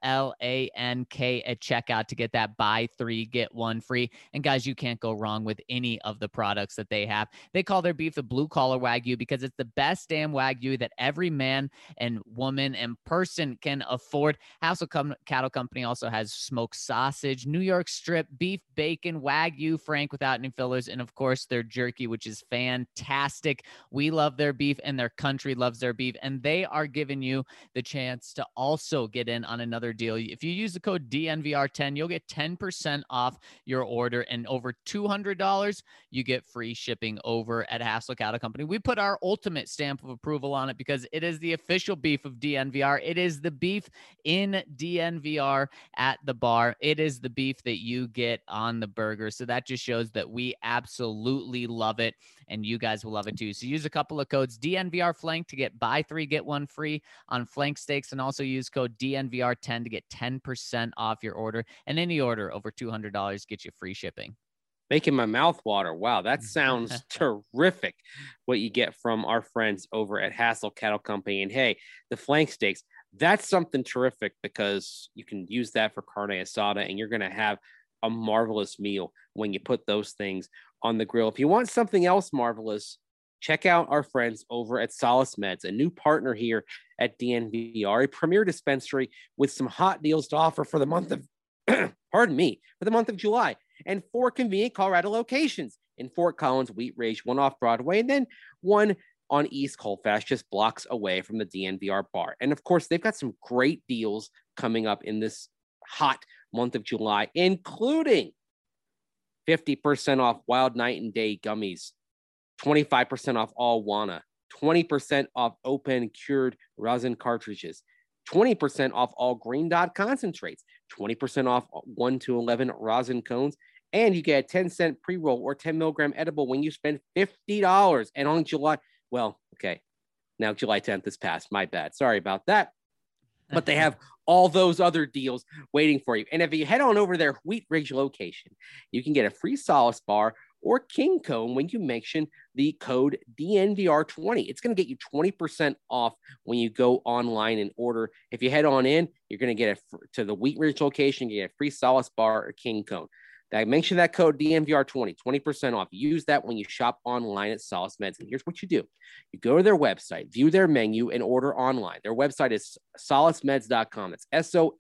FLANK at checkout to get that buy 3, get 1 free. And guys, you can't go wrong with any of the products that they have. They call their beef the blue collar Wagyu because it's the best damn Wagyu that every man and woman and person can afford. Hassel Cattle Company also has smoked sausage, New York strip, beef, bacon, Wagyu, Frank without any fillers, and of course their jerky, which is fantastic. We love their beef and their country loves their beef, and they are giving you the chance to also get in on another deal. If you use the code DNVR10, you'll get 10% off your order, and over $200, you get free shipping over at Hassel Cattle Company. We put our ultimate stamp of approval on it because it is the official beef of DNVR. It is the beef in DNVR at the bar. It is the beef that you get on the burger. So that just shows that we absolutely love it, and you guys will love it too. So use a couple of codes DNVR Flank to get buy 3 get 1 free on flank steaks, and also use code DNVR10 to get 10% off your order, and any order over $200 gets you free shipping. Making my mouth water. Wow, that sounds terrific, what you get from our friends over at Hassel Cattle Company. And hey, the flank steaks, that's something terrific because you can use that for carne asada, and you're going to have a marvelous meal when you put those things on the grill. If you want something else marvelous, check out our friends over at Solace Meds, a new partner here at DNVR, a premier dispensary with some hot deals to offer for the month of, pardon me, for the month of July, and 4 convenient Colorado locations in Fort Collins, Wheat Ridge, one off Broadway, and then one on East Colfax, just blocks away from the DNVR bar. And of course, they've got some great deals coming up in this hot month of July, including 50% off Wild Night and Day gummies, 25% off all Wana, 20% off open cured rosin cartridges, 20% off all Green Dot concentrates, 20% off 1 to 11 rosin cones, and you get a 10-cent pre-roll or 10 milligram edible when you spend $50. And on July, well, okay, now July 10th is passed. My bad. Sorry about that. But they have all those other deals waiting for you. And if you head on over their Wheat Ridge location, you can get a free Solace bar or King Cone when you mention the code DNVR20. It's going to get you 20% off when you go online and order. If you head on in, you're going to get to the Wheat Ridge location, you get a free Solace bar or King Cone. I mentioned that code DNVR20, 20% off. Use that when you shop online at Solace Meds. And here's what you do. You go to their website, view their menu, and order online. Their website is solacemeds.com. That's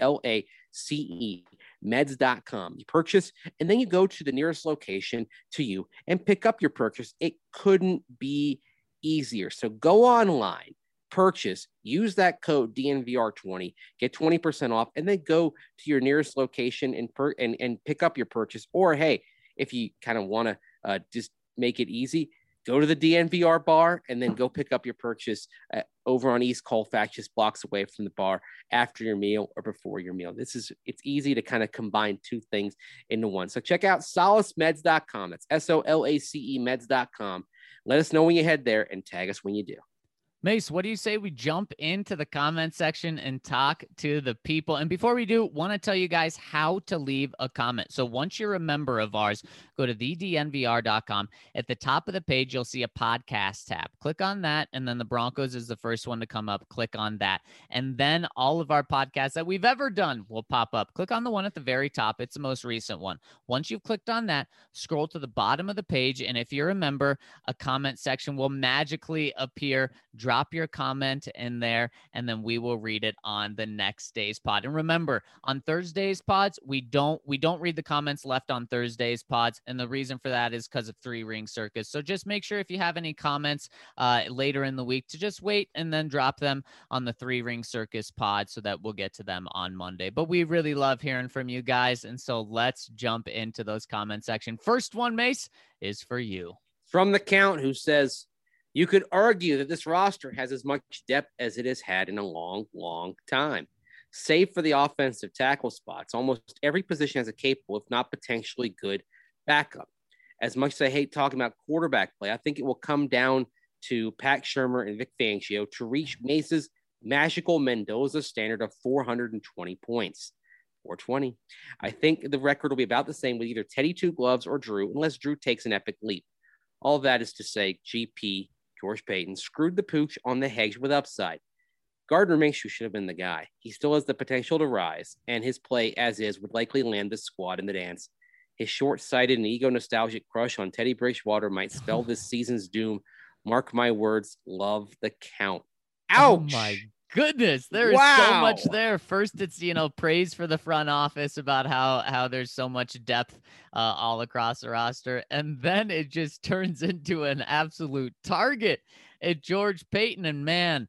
SOLACE meds.com. You purchase, and then you go to the nearest location to you and pick up your purchase. It couldn't be easier. So go online, purchase, use that code DNVR20, get 20% off, and then go to your nearest location and pick up your purchase. Or, hey, if you kind of want to just make it easy, go to the DNVR bar and then go pick up your purchase over on East Colfax, just blocks away from the bar after your meal or before your meal. It's easy to kind of combine two things into one. So check out solacemeds.com. That's SOLACE meds.com. Let us know when you head there and tag us when you do. Mace, what do you say we jump into the comment section and talk to the people? And before we do, want to tell you guys how to leave a comment. So once you're a member of ours, go to thednvr.com. At the top of the page, you'll see a podcast tab. Click on that, and then the Broncos is the first one to come up. Click on that. And then all of our podcasts that we've ever done will pop up. Click on the one at the very top. It's the most recent one. Once you've clicked on that, scroll to the bottom of the page, and if you're a member, a comment section will magically appear. Drop your comment in there, and then we will read it on the next day's pod. And remember, on Thursday's pods, we don't read the comments left on Thursday's pods, and the reason for that is because of Three Ring Circus. So just make sure if you have any comments later in the week to just wait and then drop them on the Three Ring Circus pod so that we'll get to them on Monday. But we really love hearing from you guys, and so let's jump into those comment section. First one, Mace, is for you. From the Count, who says, you could argue that this roster has as much depth as it has had in a long, long time. Save for the offensive tackle spots, almost every position has a capable, if not potentially good, backup. As much as I hate talking about quarterback play, I think it will come down to Pat Shurmur and Vic Fangio to reach Mace's magical Mendoza standard of 420 points. 420. I think the record will be about the same with either Teddy Two Gloves or Drew, unless Drew takes an epic leap. All that is to say, GP, George Payton, screwed the pooch on the hedge with upside. Gardner Minshew should have been the guy. He still has the potential to rise, and his play, as is, would likely land the squad in the dance. His short-sighted and ego-nostalgic crush on Teddy Bridgewater might spell this season's doom. Mark my words, love the Count. Ouch! Oh my goodness, there is so much there. First, it's praise for the front office about how there's so much depth all across the roster, and then it just turns into an absolute target at George Payton. And man,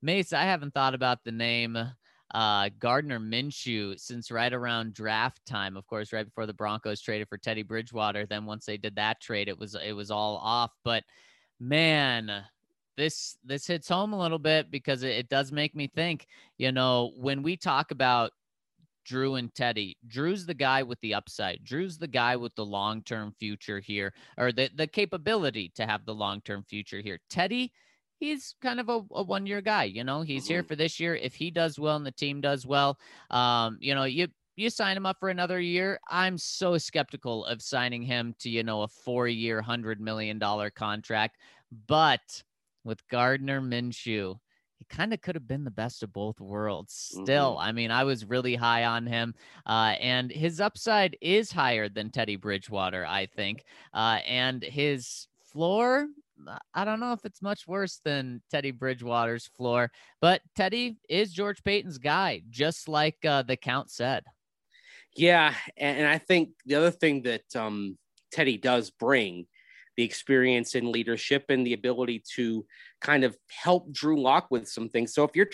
Mace, I haven't thought about the name Gardner Minshew since right around draft time. Of course, right before the Broncos traded for Teddy Bridgewater. Then once they did that trade, it was all off. But man, this hits home a little bit because it does make me think, when we talk about Drew and Teddy, Drew's the guy with the upside. Drew's the guy with the long-term future here, or the capability to have the long-term future here. Teddy, he's kind of a one-year guy. He's here for this year. If he does well and the team does well, you sign him up for another year. I'm so skeptical of signing him to, a 4-year, $100 million contract. But with Gardner Minshew, he kind of could have been the best of both worlds still. I mean, I was really high on him, and his upside is higher than Teddy Bridgewater, I think. And his floor, I don't know if it's much worse than Teddy Bridgewater's floor, but Teddy is George Payton's guy, just like the Count said. Yeah, and I think the other thing that Teddy does bring, the experience in leadership and the ability to kind of help Drew Lock with some things. So if you're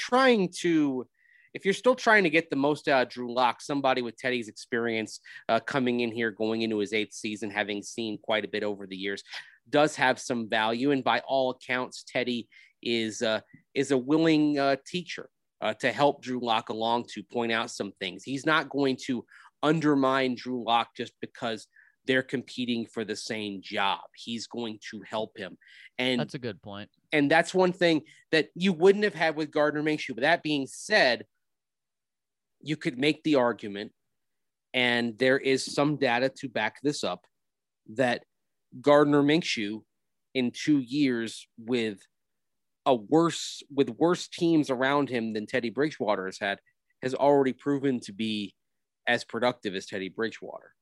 still trying to get the most out of Drew Lock, somebody with Teddy's experience coming in here, going into his 8th season, having seen quite a bit over the years, does have some value. And by all accounts, Teddy is a willing teacher to help Drew Lock along, to point out some things. He's not going to undermine Drew Lock just because they're competing for the same job. He's going to help him. And that's a good point. And that's one thing that you wouldn't have had with Gardner Minshew. But that being said, you could make the argument, and there is some data to back this up, that Gardner Minshew in 2 years with worse teams around him than Teddy Bridgewater has had, has already proven to be as productive as Teddy Bridgewater.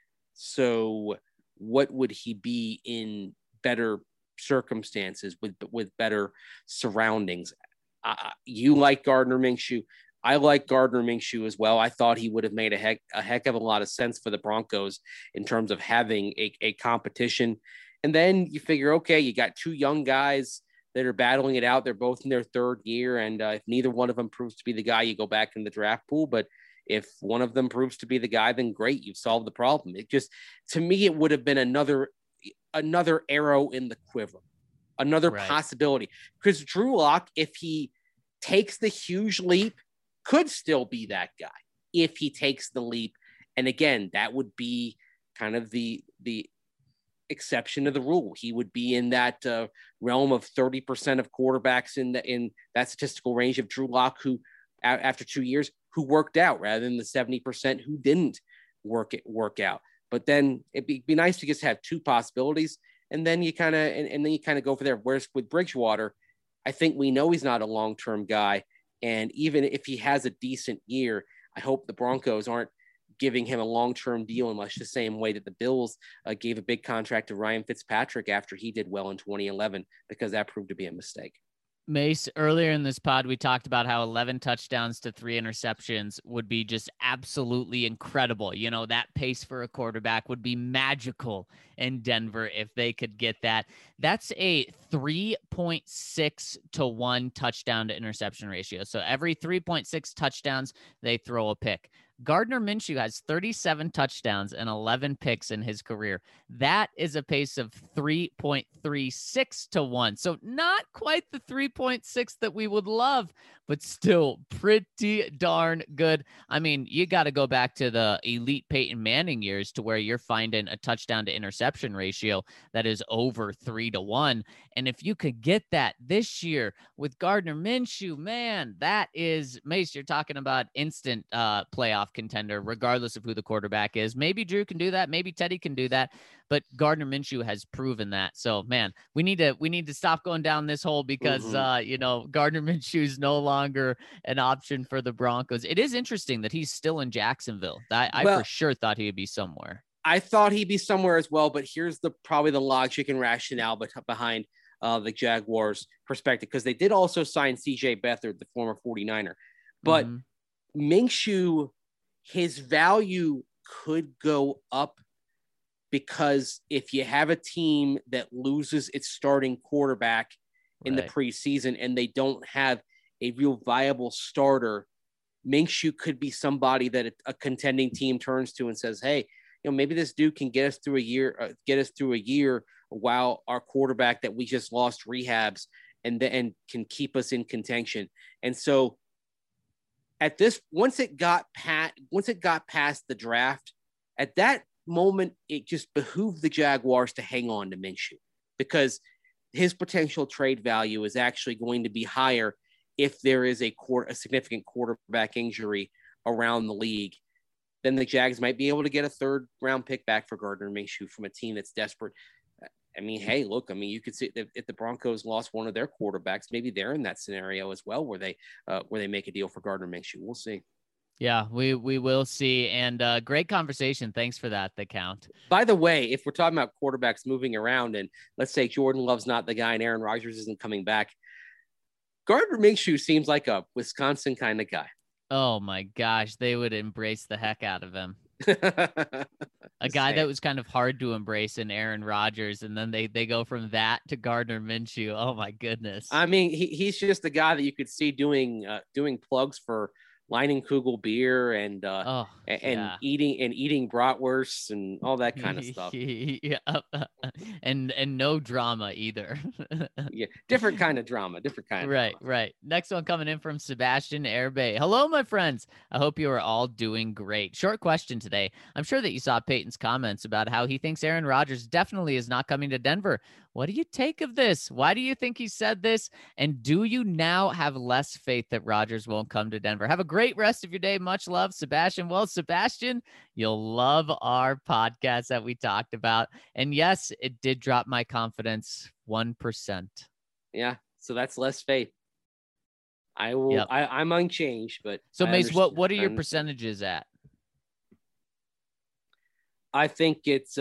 So what would he be in better circumstances with better surroundings? You like Gardner Minshew. I like Gardner Minshew as well. I thought he would have made a heck of a lot of sense for the Broncos in terms of having a competition. And then you figure, okay, you got 2 young guys that are battling it out. They're both in their 3rd year. And if neither one of them proves to be the guy, you go back in the draft pool. But if one of them proves to be the guy, then great, you've solved the problem. It just, to me, it would have been another arrow in the quiver, another possibility. Because Drew Lock, if he takes the huge leap, could still be that guy if he takes the leap. And again, that would be kind of the exception to the rule. He would be in that realm of 30% of quarterbacks in that statistical range of Drew Lock, who after 2 years, who worked out, rather than the 70% who didn't work out. But then it'd be nice to just have 2 possibilities, and then you kind of go for there. Whereas with Bridgewater, I think we know he's not a long-term guy, and even if he has a decent year, I hope the Broncos aren't giving him a long-term deal in much the same way that the Bills gave a big contract to Ryan Fitzpatrick after he did well in 2011, because that proved to be a mistake. Mace, earlier in this pod, we talked about how 11 touchdowns to 3 interceptions would be just absolutely incredible. That pace for a quarterback would be magical in Denver if they could get that. That's a 3.6 to 1 touchdown to interception ratio. So every 3.6 touchdowns, they throw a pick. Gardner Minshew has 37 touchdowns and 11 picks in his career. That is a pace of 3.36 to 1. So not quite the 3.6 that we would love, but still pretty darn good. I mean, you got to go back to the elite Peyton Manning years to where you're finding a touchdown to interception ratio that is over 3 to 1. And if you could get that this year with Gardner Minshew, man, that is, Mace, you're talking about instant playoff contender, regardless of who the quarterback is. Maybe Drew can do that. Maybe Teddy can do that. But Gardner Minshew has proven that. So, man, we need to stop going down this hole because, Gardner Minshew is no longer an option for the Broncos. It is interesting that he's still in Jacksonville. I for sure thought he would be somewhere. I thought he'd be somewhere as well, but here's probably the logic and rationale behind the Jaguars' perspective, because they did also sign C.J. Beathard, the former 49er. But Minshew, his value could go up, because if you have a team that loses its starting quarterback in the preseason and they don't have a real viable starter, Minshew could be somebody that a contending team turns to and says, hey, maybe this dude can get us through a year while our quarterback that we just lost rehabs and can keep us in contention. And so once it got past the draft, at that moment, it just behooved the Jaguars to hang on to Minshew because his potential trade value is actually going to be higher if there is a significant quarterback injury around the league. Then the Jags might be able to get a third-round pick back for Gardner Minshew from a team that's desperate. I mean, hey, look, you could see if the Broncos lost one of their quarterbacks, maybe they're in that scenario as well where they make a deal for Gardner Minshew. We'll see. Yeah, we will see. And great conversation. Thanks for that, The Count. By the way, if we're talking about quarterbacks moving around and let's say Jordan Love's not the guy and Aaron Rodgers isn't coming back, Gardner Minshew seems like a Wisconsin kind of guy. Oh, my gosh. They would embrace the heck out of him. A guy that was kind of hard to embrace in Aaron Rodgers, and then they go from that to Gardner Minshew. Oh, my goodness. I mean, he's just a guy that you could see doing plugs for Leinenkugel beer and eating bratwursts and all that kind of stuff. Yeah. And no drama either. Yeah, different kind of drama. Right. Next one coming in from Sebastian Airbay. Hello, my friends. I hope you are all doing great. Short question today. I'm sure that you saw Peyton's comments about how he thinks Aaron Rodgers definitely is not coming to Denver. What do you take of this? Why do you think he said this? And do you now have less faith that Rodgers won't come to Denver? Have a great rest of your day. Much love, Sebastian. Well, Sebastian, you'll love our podcast that we talked about. And yes, it did drop my confidence 1%. Yeah, so that's less faith. I will. Yep. I'm unchanged, but so Mace, what are your percentages at? I think it's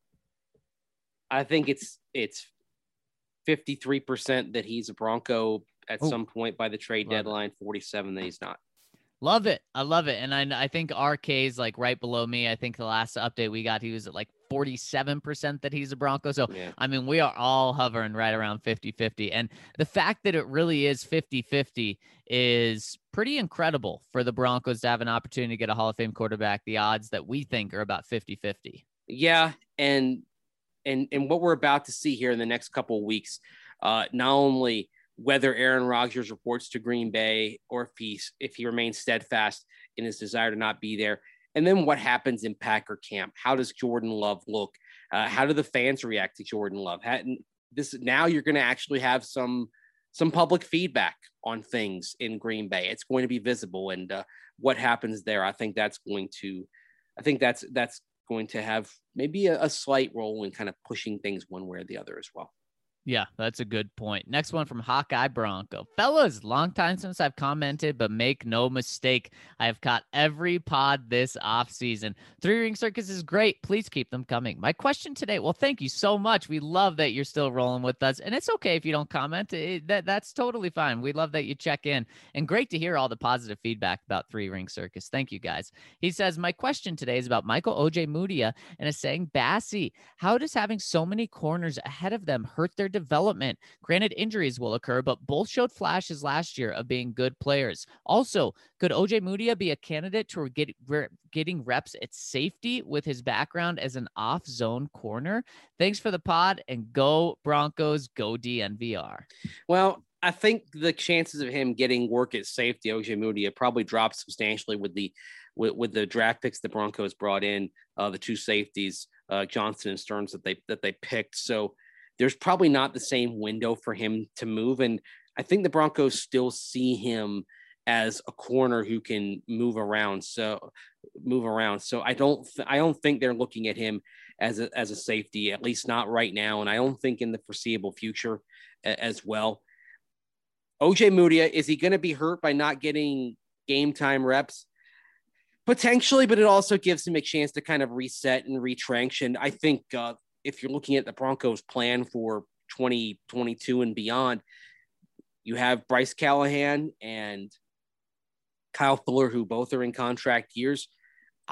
53% that he's a Bronco at some point by the trade deadline, 47% that he's not. Love it. I love it. And I think RK is like right below me. I think the last update we got, he was at like 47% that he's a Bronco. So, yeah. I mean, we are all hovering right around 50-50. And the fact that it really is 50-50 is pretty incredible for the Broncos to have an opportunity to get a Hall of Fame quarterback. The odds that we think are about 50-50. Yeah. And what we're about to see here in the next couple of weeks, not only whether Aaron Rodgers reports to Green Bay or if he remains steadfast in his desire to not be there. And then what happens in Packer camp? How does Jordan Love look? How do the fans react to Jordan Love? Now you're going to actually have some public feedback on things in Green Bay. It's going to be visible. And what happens there, I think that's going to have maybe a slight role in kind of pushing things one way or the other as well. Yeah, that's a good point. Next one from Hawkeye Bronco. Fellas, long time since I've commented, but make no mistake, I have caught every pod this offseason. 3-Ring Circus is great. Please keep them coming. My question today, well, thank you so much. We love that you're still rolling with us, and it's okay if you don't comment. That's totally fine. We love that you check in, and great to hear all the positive feedback about 3-Ring Circus. Thank you, guys. He says, my question today is about Michael Ojemudia and is saying, Bassey, how does having so many corners ahead of them hurt their development? Granted, injuries will occur, but both showed flashes last year of being good players. Also, could Ojemudia be a candidate to getting reps at safety with his background as an off-zone corner? Thanks for the pod, and go Broncos, go DNVR. Well, I think the chances of him getting work at safety, Ojemudia, probably dropped substantially with the draft picks the Broncos brought in, the two safeties, Johnson and Stearns that they picked. So there's probably not the same window for him to move. And I think the Broncos still see him as a corner who can move around. So I don't think they're looking at him as a safety, at least not right now. And I don't think in the foreseeable future as well. Ojemudia, is he going to be hurt by not getting game time reps? Potentially, but it also gives him a chance to kind of reset and retrench. And I think, if you're looking at the Broncos plan for 2022 and beyond, you have Bryce Callahan and Kyle Fuller, who both are in contract years.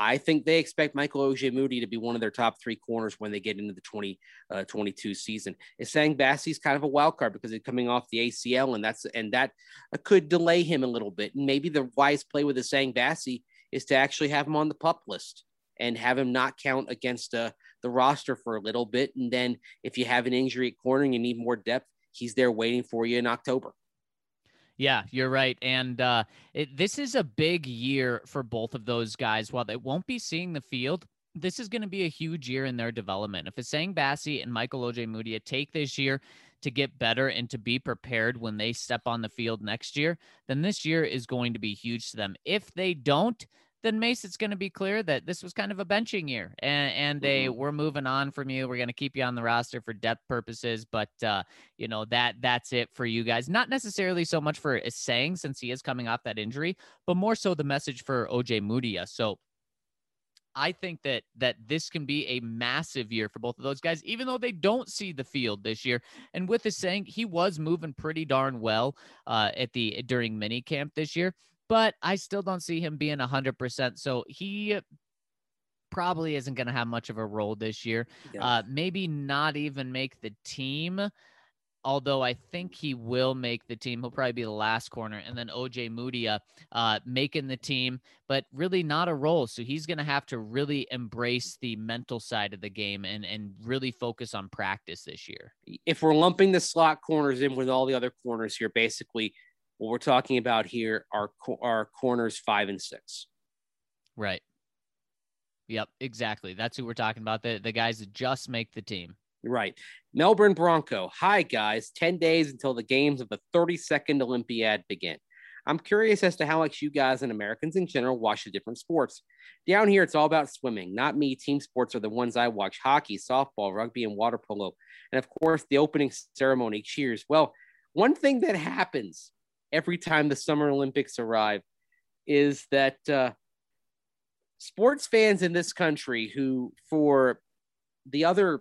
I think they expect Michael Ojemudia to be one of their top 3 corners when they get into the 2022 season. Essang Bassey's kind of a wild card because he's coming off the ACL, and that could delay him a little bit. And maybe the wise play with Essang Bassey is to actually have him on the PUP list and have him not count against the roster for a little bit. And then if you have an injury at corner and you need more depth, he's there waiting for you in October. Yeah, you're right. And this is a big year for both of those guys. While they won't be seeing the field, this is going to be a huge year in their development. If Essang Bassey and Michael Ojemudia take this year to get better and to be prepared when they step on the field next year, then this year is going to be huge to them. If they don't, then Mace, it's going to be clear that this was kind of a benching year, and we're moving on from you. We're going to keep you on the roster for depth purposes, but that's it for you guys. Not necessarily so much for Essang, since he is coming off that injury, but more so the message for Ojemudia. So I think that this can be a massive year for both of those guys, even though they don't see the field this year. And with Essang, he was moving pretty darn well during minicamp this year. But I still don't see him being 100%. So he probably isn't going to have much of a role this year. Yeah. Maybe not even make the team, although I think he will make the team. He'll probably be the last corner. And then Ojemudia making the team, but really not a role. So he's going to have to really embrace the mental side of the game and really focus on practice this year. If we're lumping the slot corners in with all the other corners here, basically – what we're talking about here are corners 5 and 6. Right. Yep, exactly. That's who we're talking about. The guys that just make the team. Right. Melbourne Bronco. Hi, guys. 10 days until the games of the 32nd Olympiad begin. I'm curious as to how much you guys and Americans in general watch the different sports. Down here, it's all about swimming. Not me. Team sports are the ones I watch. Hockey, softball, rugby, and water polo. And, of course, the opening ceremony cheers. Well, one thing that happens every time the Summer Olympics arrive is that sports fans in this country who for the other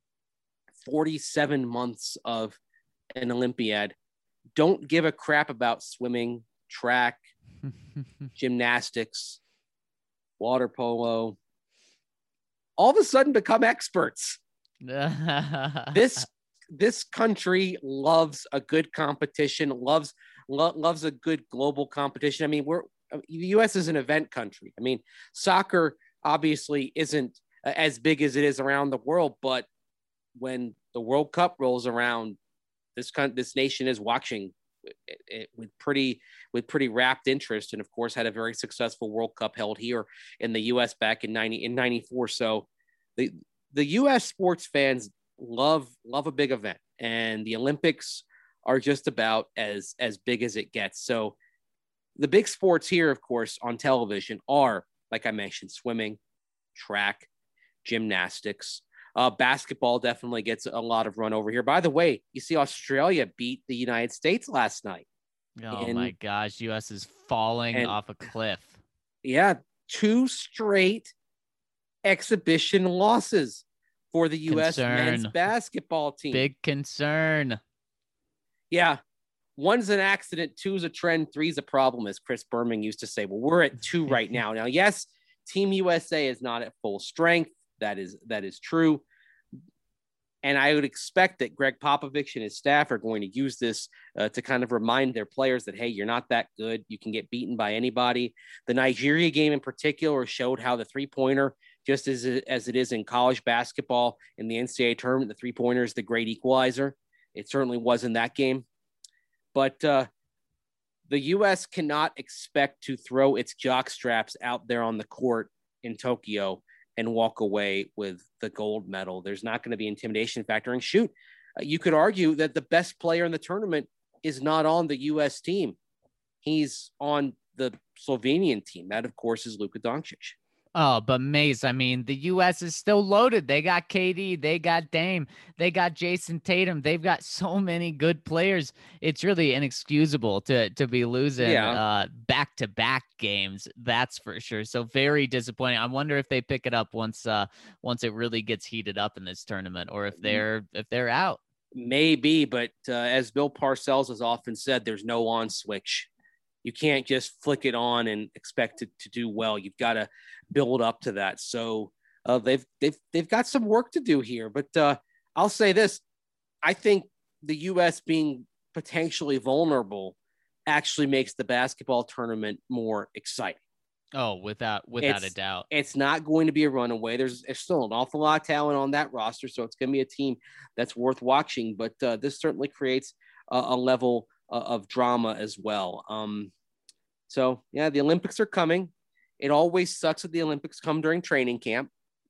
47 months of an Olympiad don't give a crap about swimming, track, gymnastics, water polo, all of a sudden become experts. This country loves a good competition, loves a good global competition. I mean, the U.S. is an event country. I mean, soccer obviously isn't as big as it is around the world, but when the World Cup rolls around, this nation is watching it with pretty rapt interest, and of course had a very successful World Cup held here in the U.S. back in 94. So the U.S. sports fans love a big event, and the Olympics are just about as big as it gets. So the big sports here, of course, on television are, like I mentioned, swimming, track, gymnastics. Basketball definitely gets a lot of run over here. By the way, you see Australia beat the United States last night. Oh my gosh, U.S. is falling off a cliff. Yeah, 2 straight exhibition losses for the U.S. men's basketball team. Big concern. Yeah. 1's an accident, 2's a trend, 3's a problem, as Chris Berman used to say. Well, we're at 2 right now. Now, yes, Team USA is not at full strength. That is true. And I would expect that Greg Popovich and his staff are going to use this to kind of remind their players that, hey, you're not that good. You can get beaten by anybody. The Nigeria game in particular showed how the three-pointer, just as it is in college basketball in the NCAA tournament, the three-pointer is the great equalizer. It certainly was in that game. But the U.S. cannot expect to throw its jock straps out there on the court in Tokyo and walk away with the gold medal. There's not going to be intimidation factor. And shoot, you could argue that the best player in the tournament is not on the U.S. team. He's on the Slovenian team. That, of course, is Luka Doncic. Oh, but Mace, I mean, the U.S. is still loaded. They got KD, they got Dame, they got Jason Tatum. They've got so many good players. It's really inexcusable to be losing back-to-back games. That's for sure. So very disappointing. I wonder if they pick it up once it really gets heated up in this tournament, or if they're out. Maybe, but as Bill Parcells has often said, there's no on switch You can't just flick it on and expect it to do well. You've got to build up to that. So they've got some work to do here. But I'll say this: I think the U.S. being potentially vulnerable actually makes the basketball tournament more exciting. Oh, without a doubt. It's not going to be a runaway. There's still an awful lot of talent on that roster, so it's going to be a team that's worth watching. But this certainly creates a level of drama as well. So yeah, the Olympics are coming. It always sucks that the Olympics come during training camp.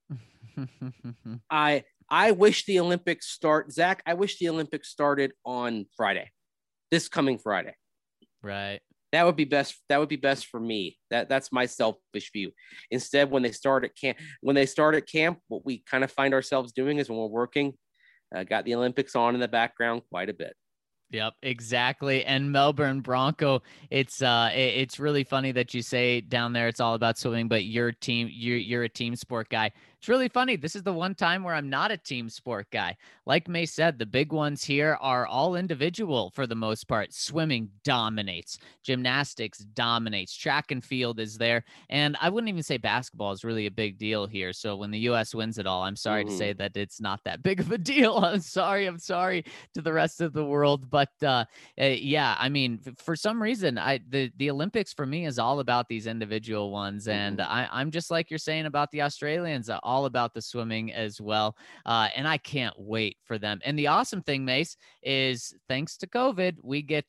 I wish the Olympics start, Zach. I wish the Olympics started on Friday, this coming Friday. Right. That would be best. That would be best for me. That's my selfish view. Instead, when they start at camp, what we kind of find ourselves doing is when we're working, got the Olympics on in the background quite a bit. Yep, exactly. And Melbourne Bronco, it's really funny that you say down there it's all about swimming, but you're a team sport guy. It's really funny. This is the one time where I'm not a team sport guy. Like May said, the big ones here are all individual for the most part. Swimming dominates. Gymnastics dominates. Track and field is there. And I wouldn't even say basketball is really a big deal here. So when the U.S. wins it all, I'm sorry to say that it's not that big of a deal. I'm sorry to the rest of the world. But yeah, I mean, for some reason, the Olympics for me is all about these individual ones. And I'm just like you're saying about the Australians, all about the swimming as well. And I can't wait for them. And the awesome thing, Mace, is thanks to COVID, we get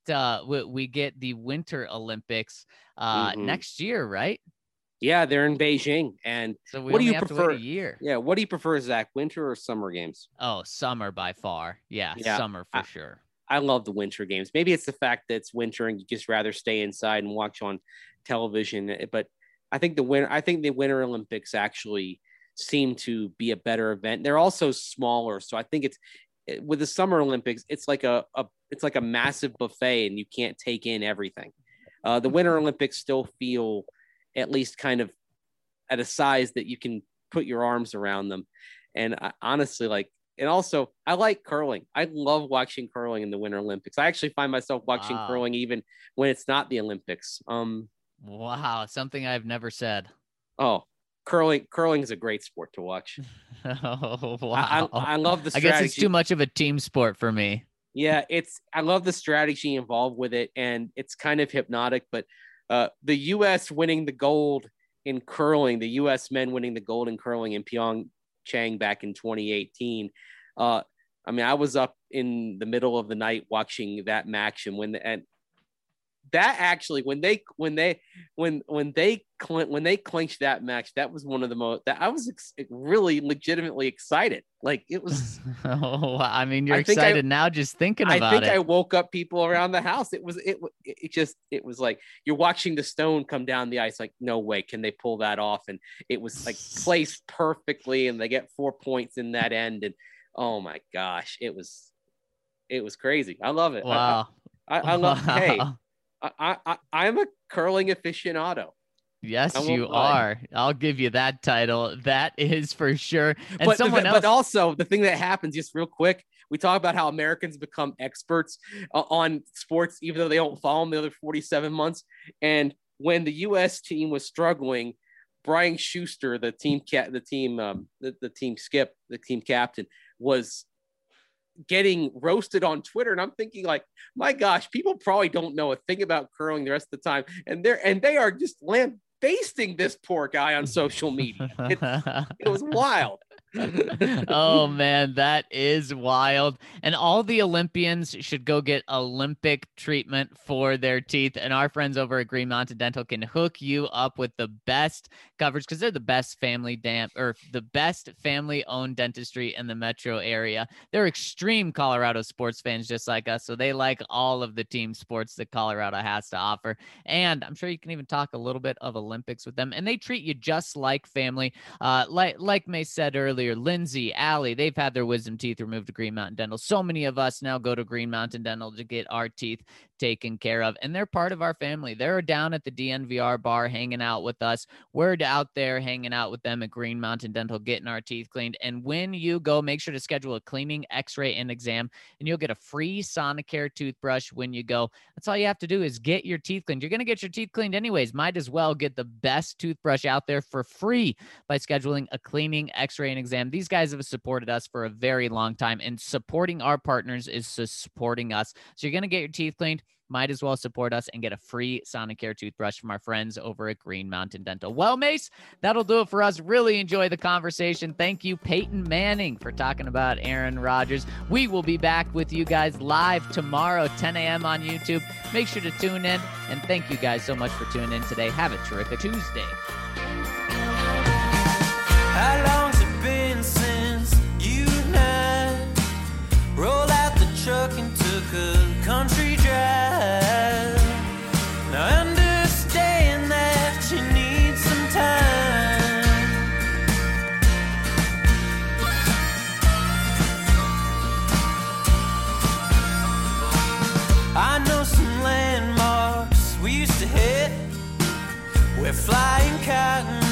the Winter Olympics next year, right? Yeah, they're in Beijing. And so we what do you have prefer? To wait a year. Yeah, what do you prefer, Zach? Winter or summer games? Oh, summer by far. Yeah, summer for sure. I love the winter games. Maybe it's the fact that it's winter and you just rather stay inside and watch on television. But I think the Winter Olympics actually seem to be a better event. They're also smaller, so I think with the Summer Olympics, it's like a massive buffet and you can't take in everything. The Winter Olympics still feel at least kind of at a size that you can put your arms around them. And honestly, and also I like curling. I love watching curling in the Winter Olympics. I actually find myself watching curling even when it's not the Olympics. Wow, something I've never said. Oh, curling is a great sport to watch. Oh, wow. I love the strategy. I guess it's too much of a team sport for me. Yeah, I love the strategy involved with it, and it's kind of hypnotic. But the U.S. winning the gold in curling, the U.S. men winning the gold in curling in Pyeongchang back in 2018. I mean, I was up in the middle of the night watching that match, and when they clinched that match, that was one of the most that I was really legitimately excited. Like it was. Oh, I mean, you're excited now just thinking about it. I think I woke up people around the house. It was like you're watching the stone come down the ice. Like, no way can they pull that off? And it was like placed perfectly, and they get 4 points in that end. And oh my gosh, it was crazy. I love it. Wow. I love. Hey. I'm a curling aficionado. Yes, you are. I'll give you that title. That is for sure. And but also the thing that happens, just real quick, we talk about how Americans become experts on sports, even though they don't follow them the other 47 months. And when the U.S. team was struggling, Brian Schuster, the team captain, was getting roasted on Twitter, and I'm thinking, like, my gosh, people probably don't know a thing about curling the rest of the time, and they are just lambasting this poor guy on social media. It was wild. Oh man, that is wild. And all the Olympians should go get Olympic treatment for their teeth. And our friends over at Green Mountain Dental can hook you up with the best coverage because they're the best family-owned dentistry in the metro area. They're extreme Colorado sports fans just like us, so they like all of the team sports that Colorado has to offer. And I'm sure you can even talk a little bit of Olympics with them. And they treat you just like family. Like May said earlier, Lindsay, Allie, they've had their wisdom teeth removed to Green Mountain Dental. So many of us now go to Green Mountain Dental to get our teeth taken care of, and they're part of our family. They're down at the DNVR bar hanging out with us. We're out there hanging out with them at Green Mountain Dental, getting our teeth cleaned. And when you go, make sure to schedule a cleaning, x-ray, and exam, and you'll get a free Sonicare toothbrush when you go. That's all you have to do is get your teeth cleaned. You're going to get your teeth cleaned anyways. Might as well get the best toothbrush out there for free by scheduling a cleaning, x-ray, and exam. These guys have supported us for a very long time, and supporting our partners is supporting us. So you're going to get your teeth cleaned. Might as well support us and get a free Sonicare toothbrush from our friends over at Green Mountain Dental. Well, Mace, that'll do it for us. Really enjoy the conversation. Thank you, Peyton Manning, for talking about Aaron Rodgers. We will be back with you guys live tomorrow, 10 a.m. on YouTube. Make sure to tune in, and thank you guys so much for tuning in today. Have a terrific Tuesday. How long's it been since you and I rolled out the truck and took a country drive? Now I understand that you need some time. I know some landmarks we used to hit where flying cotton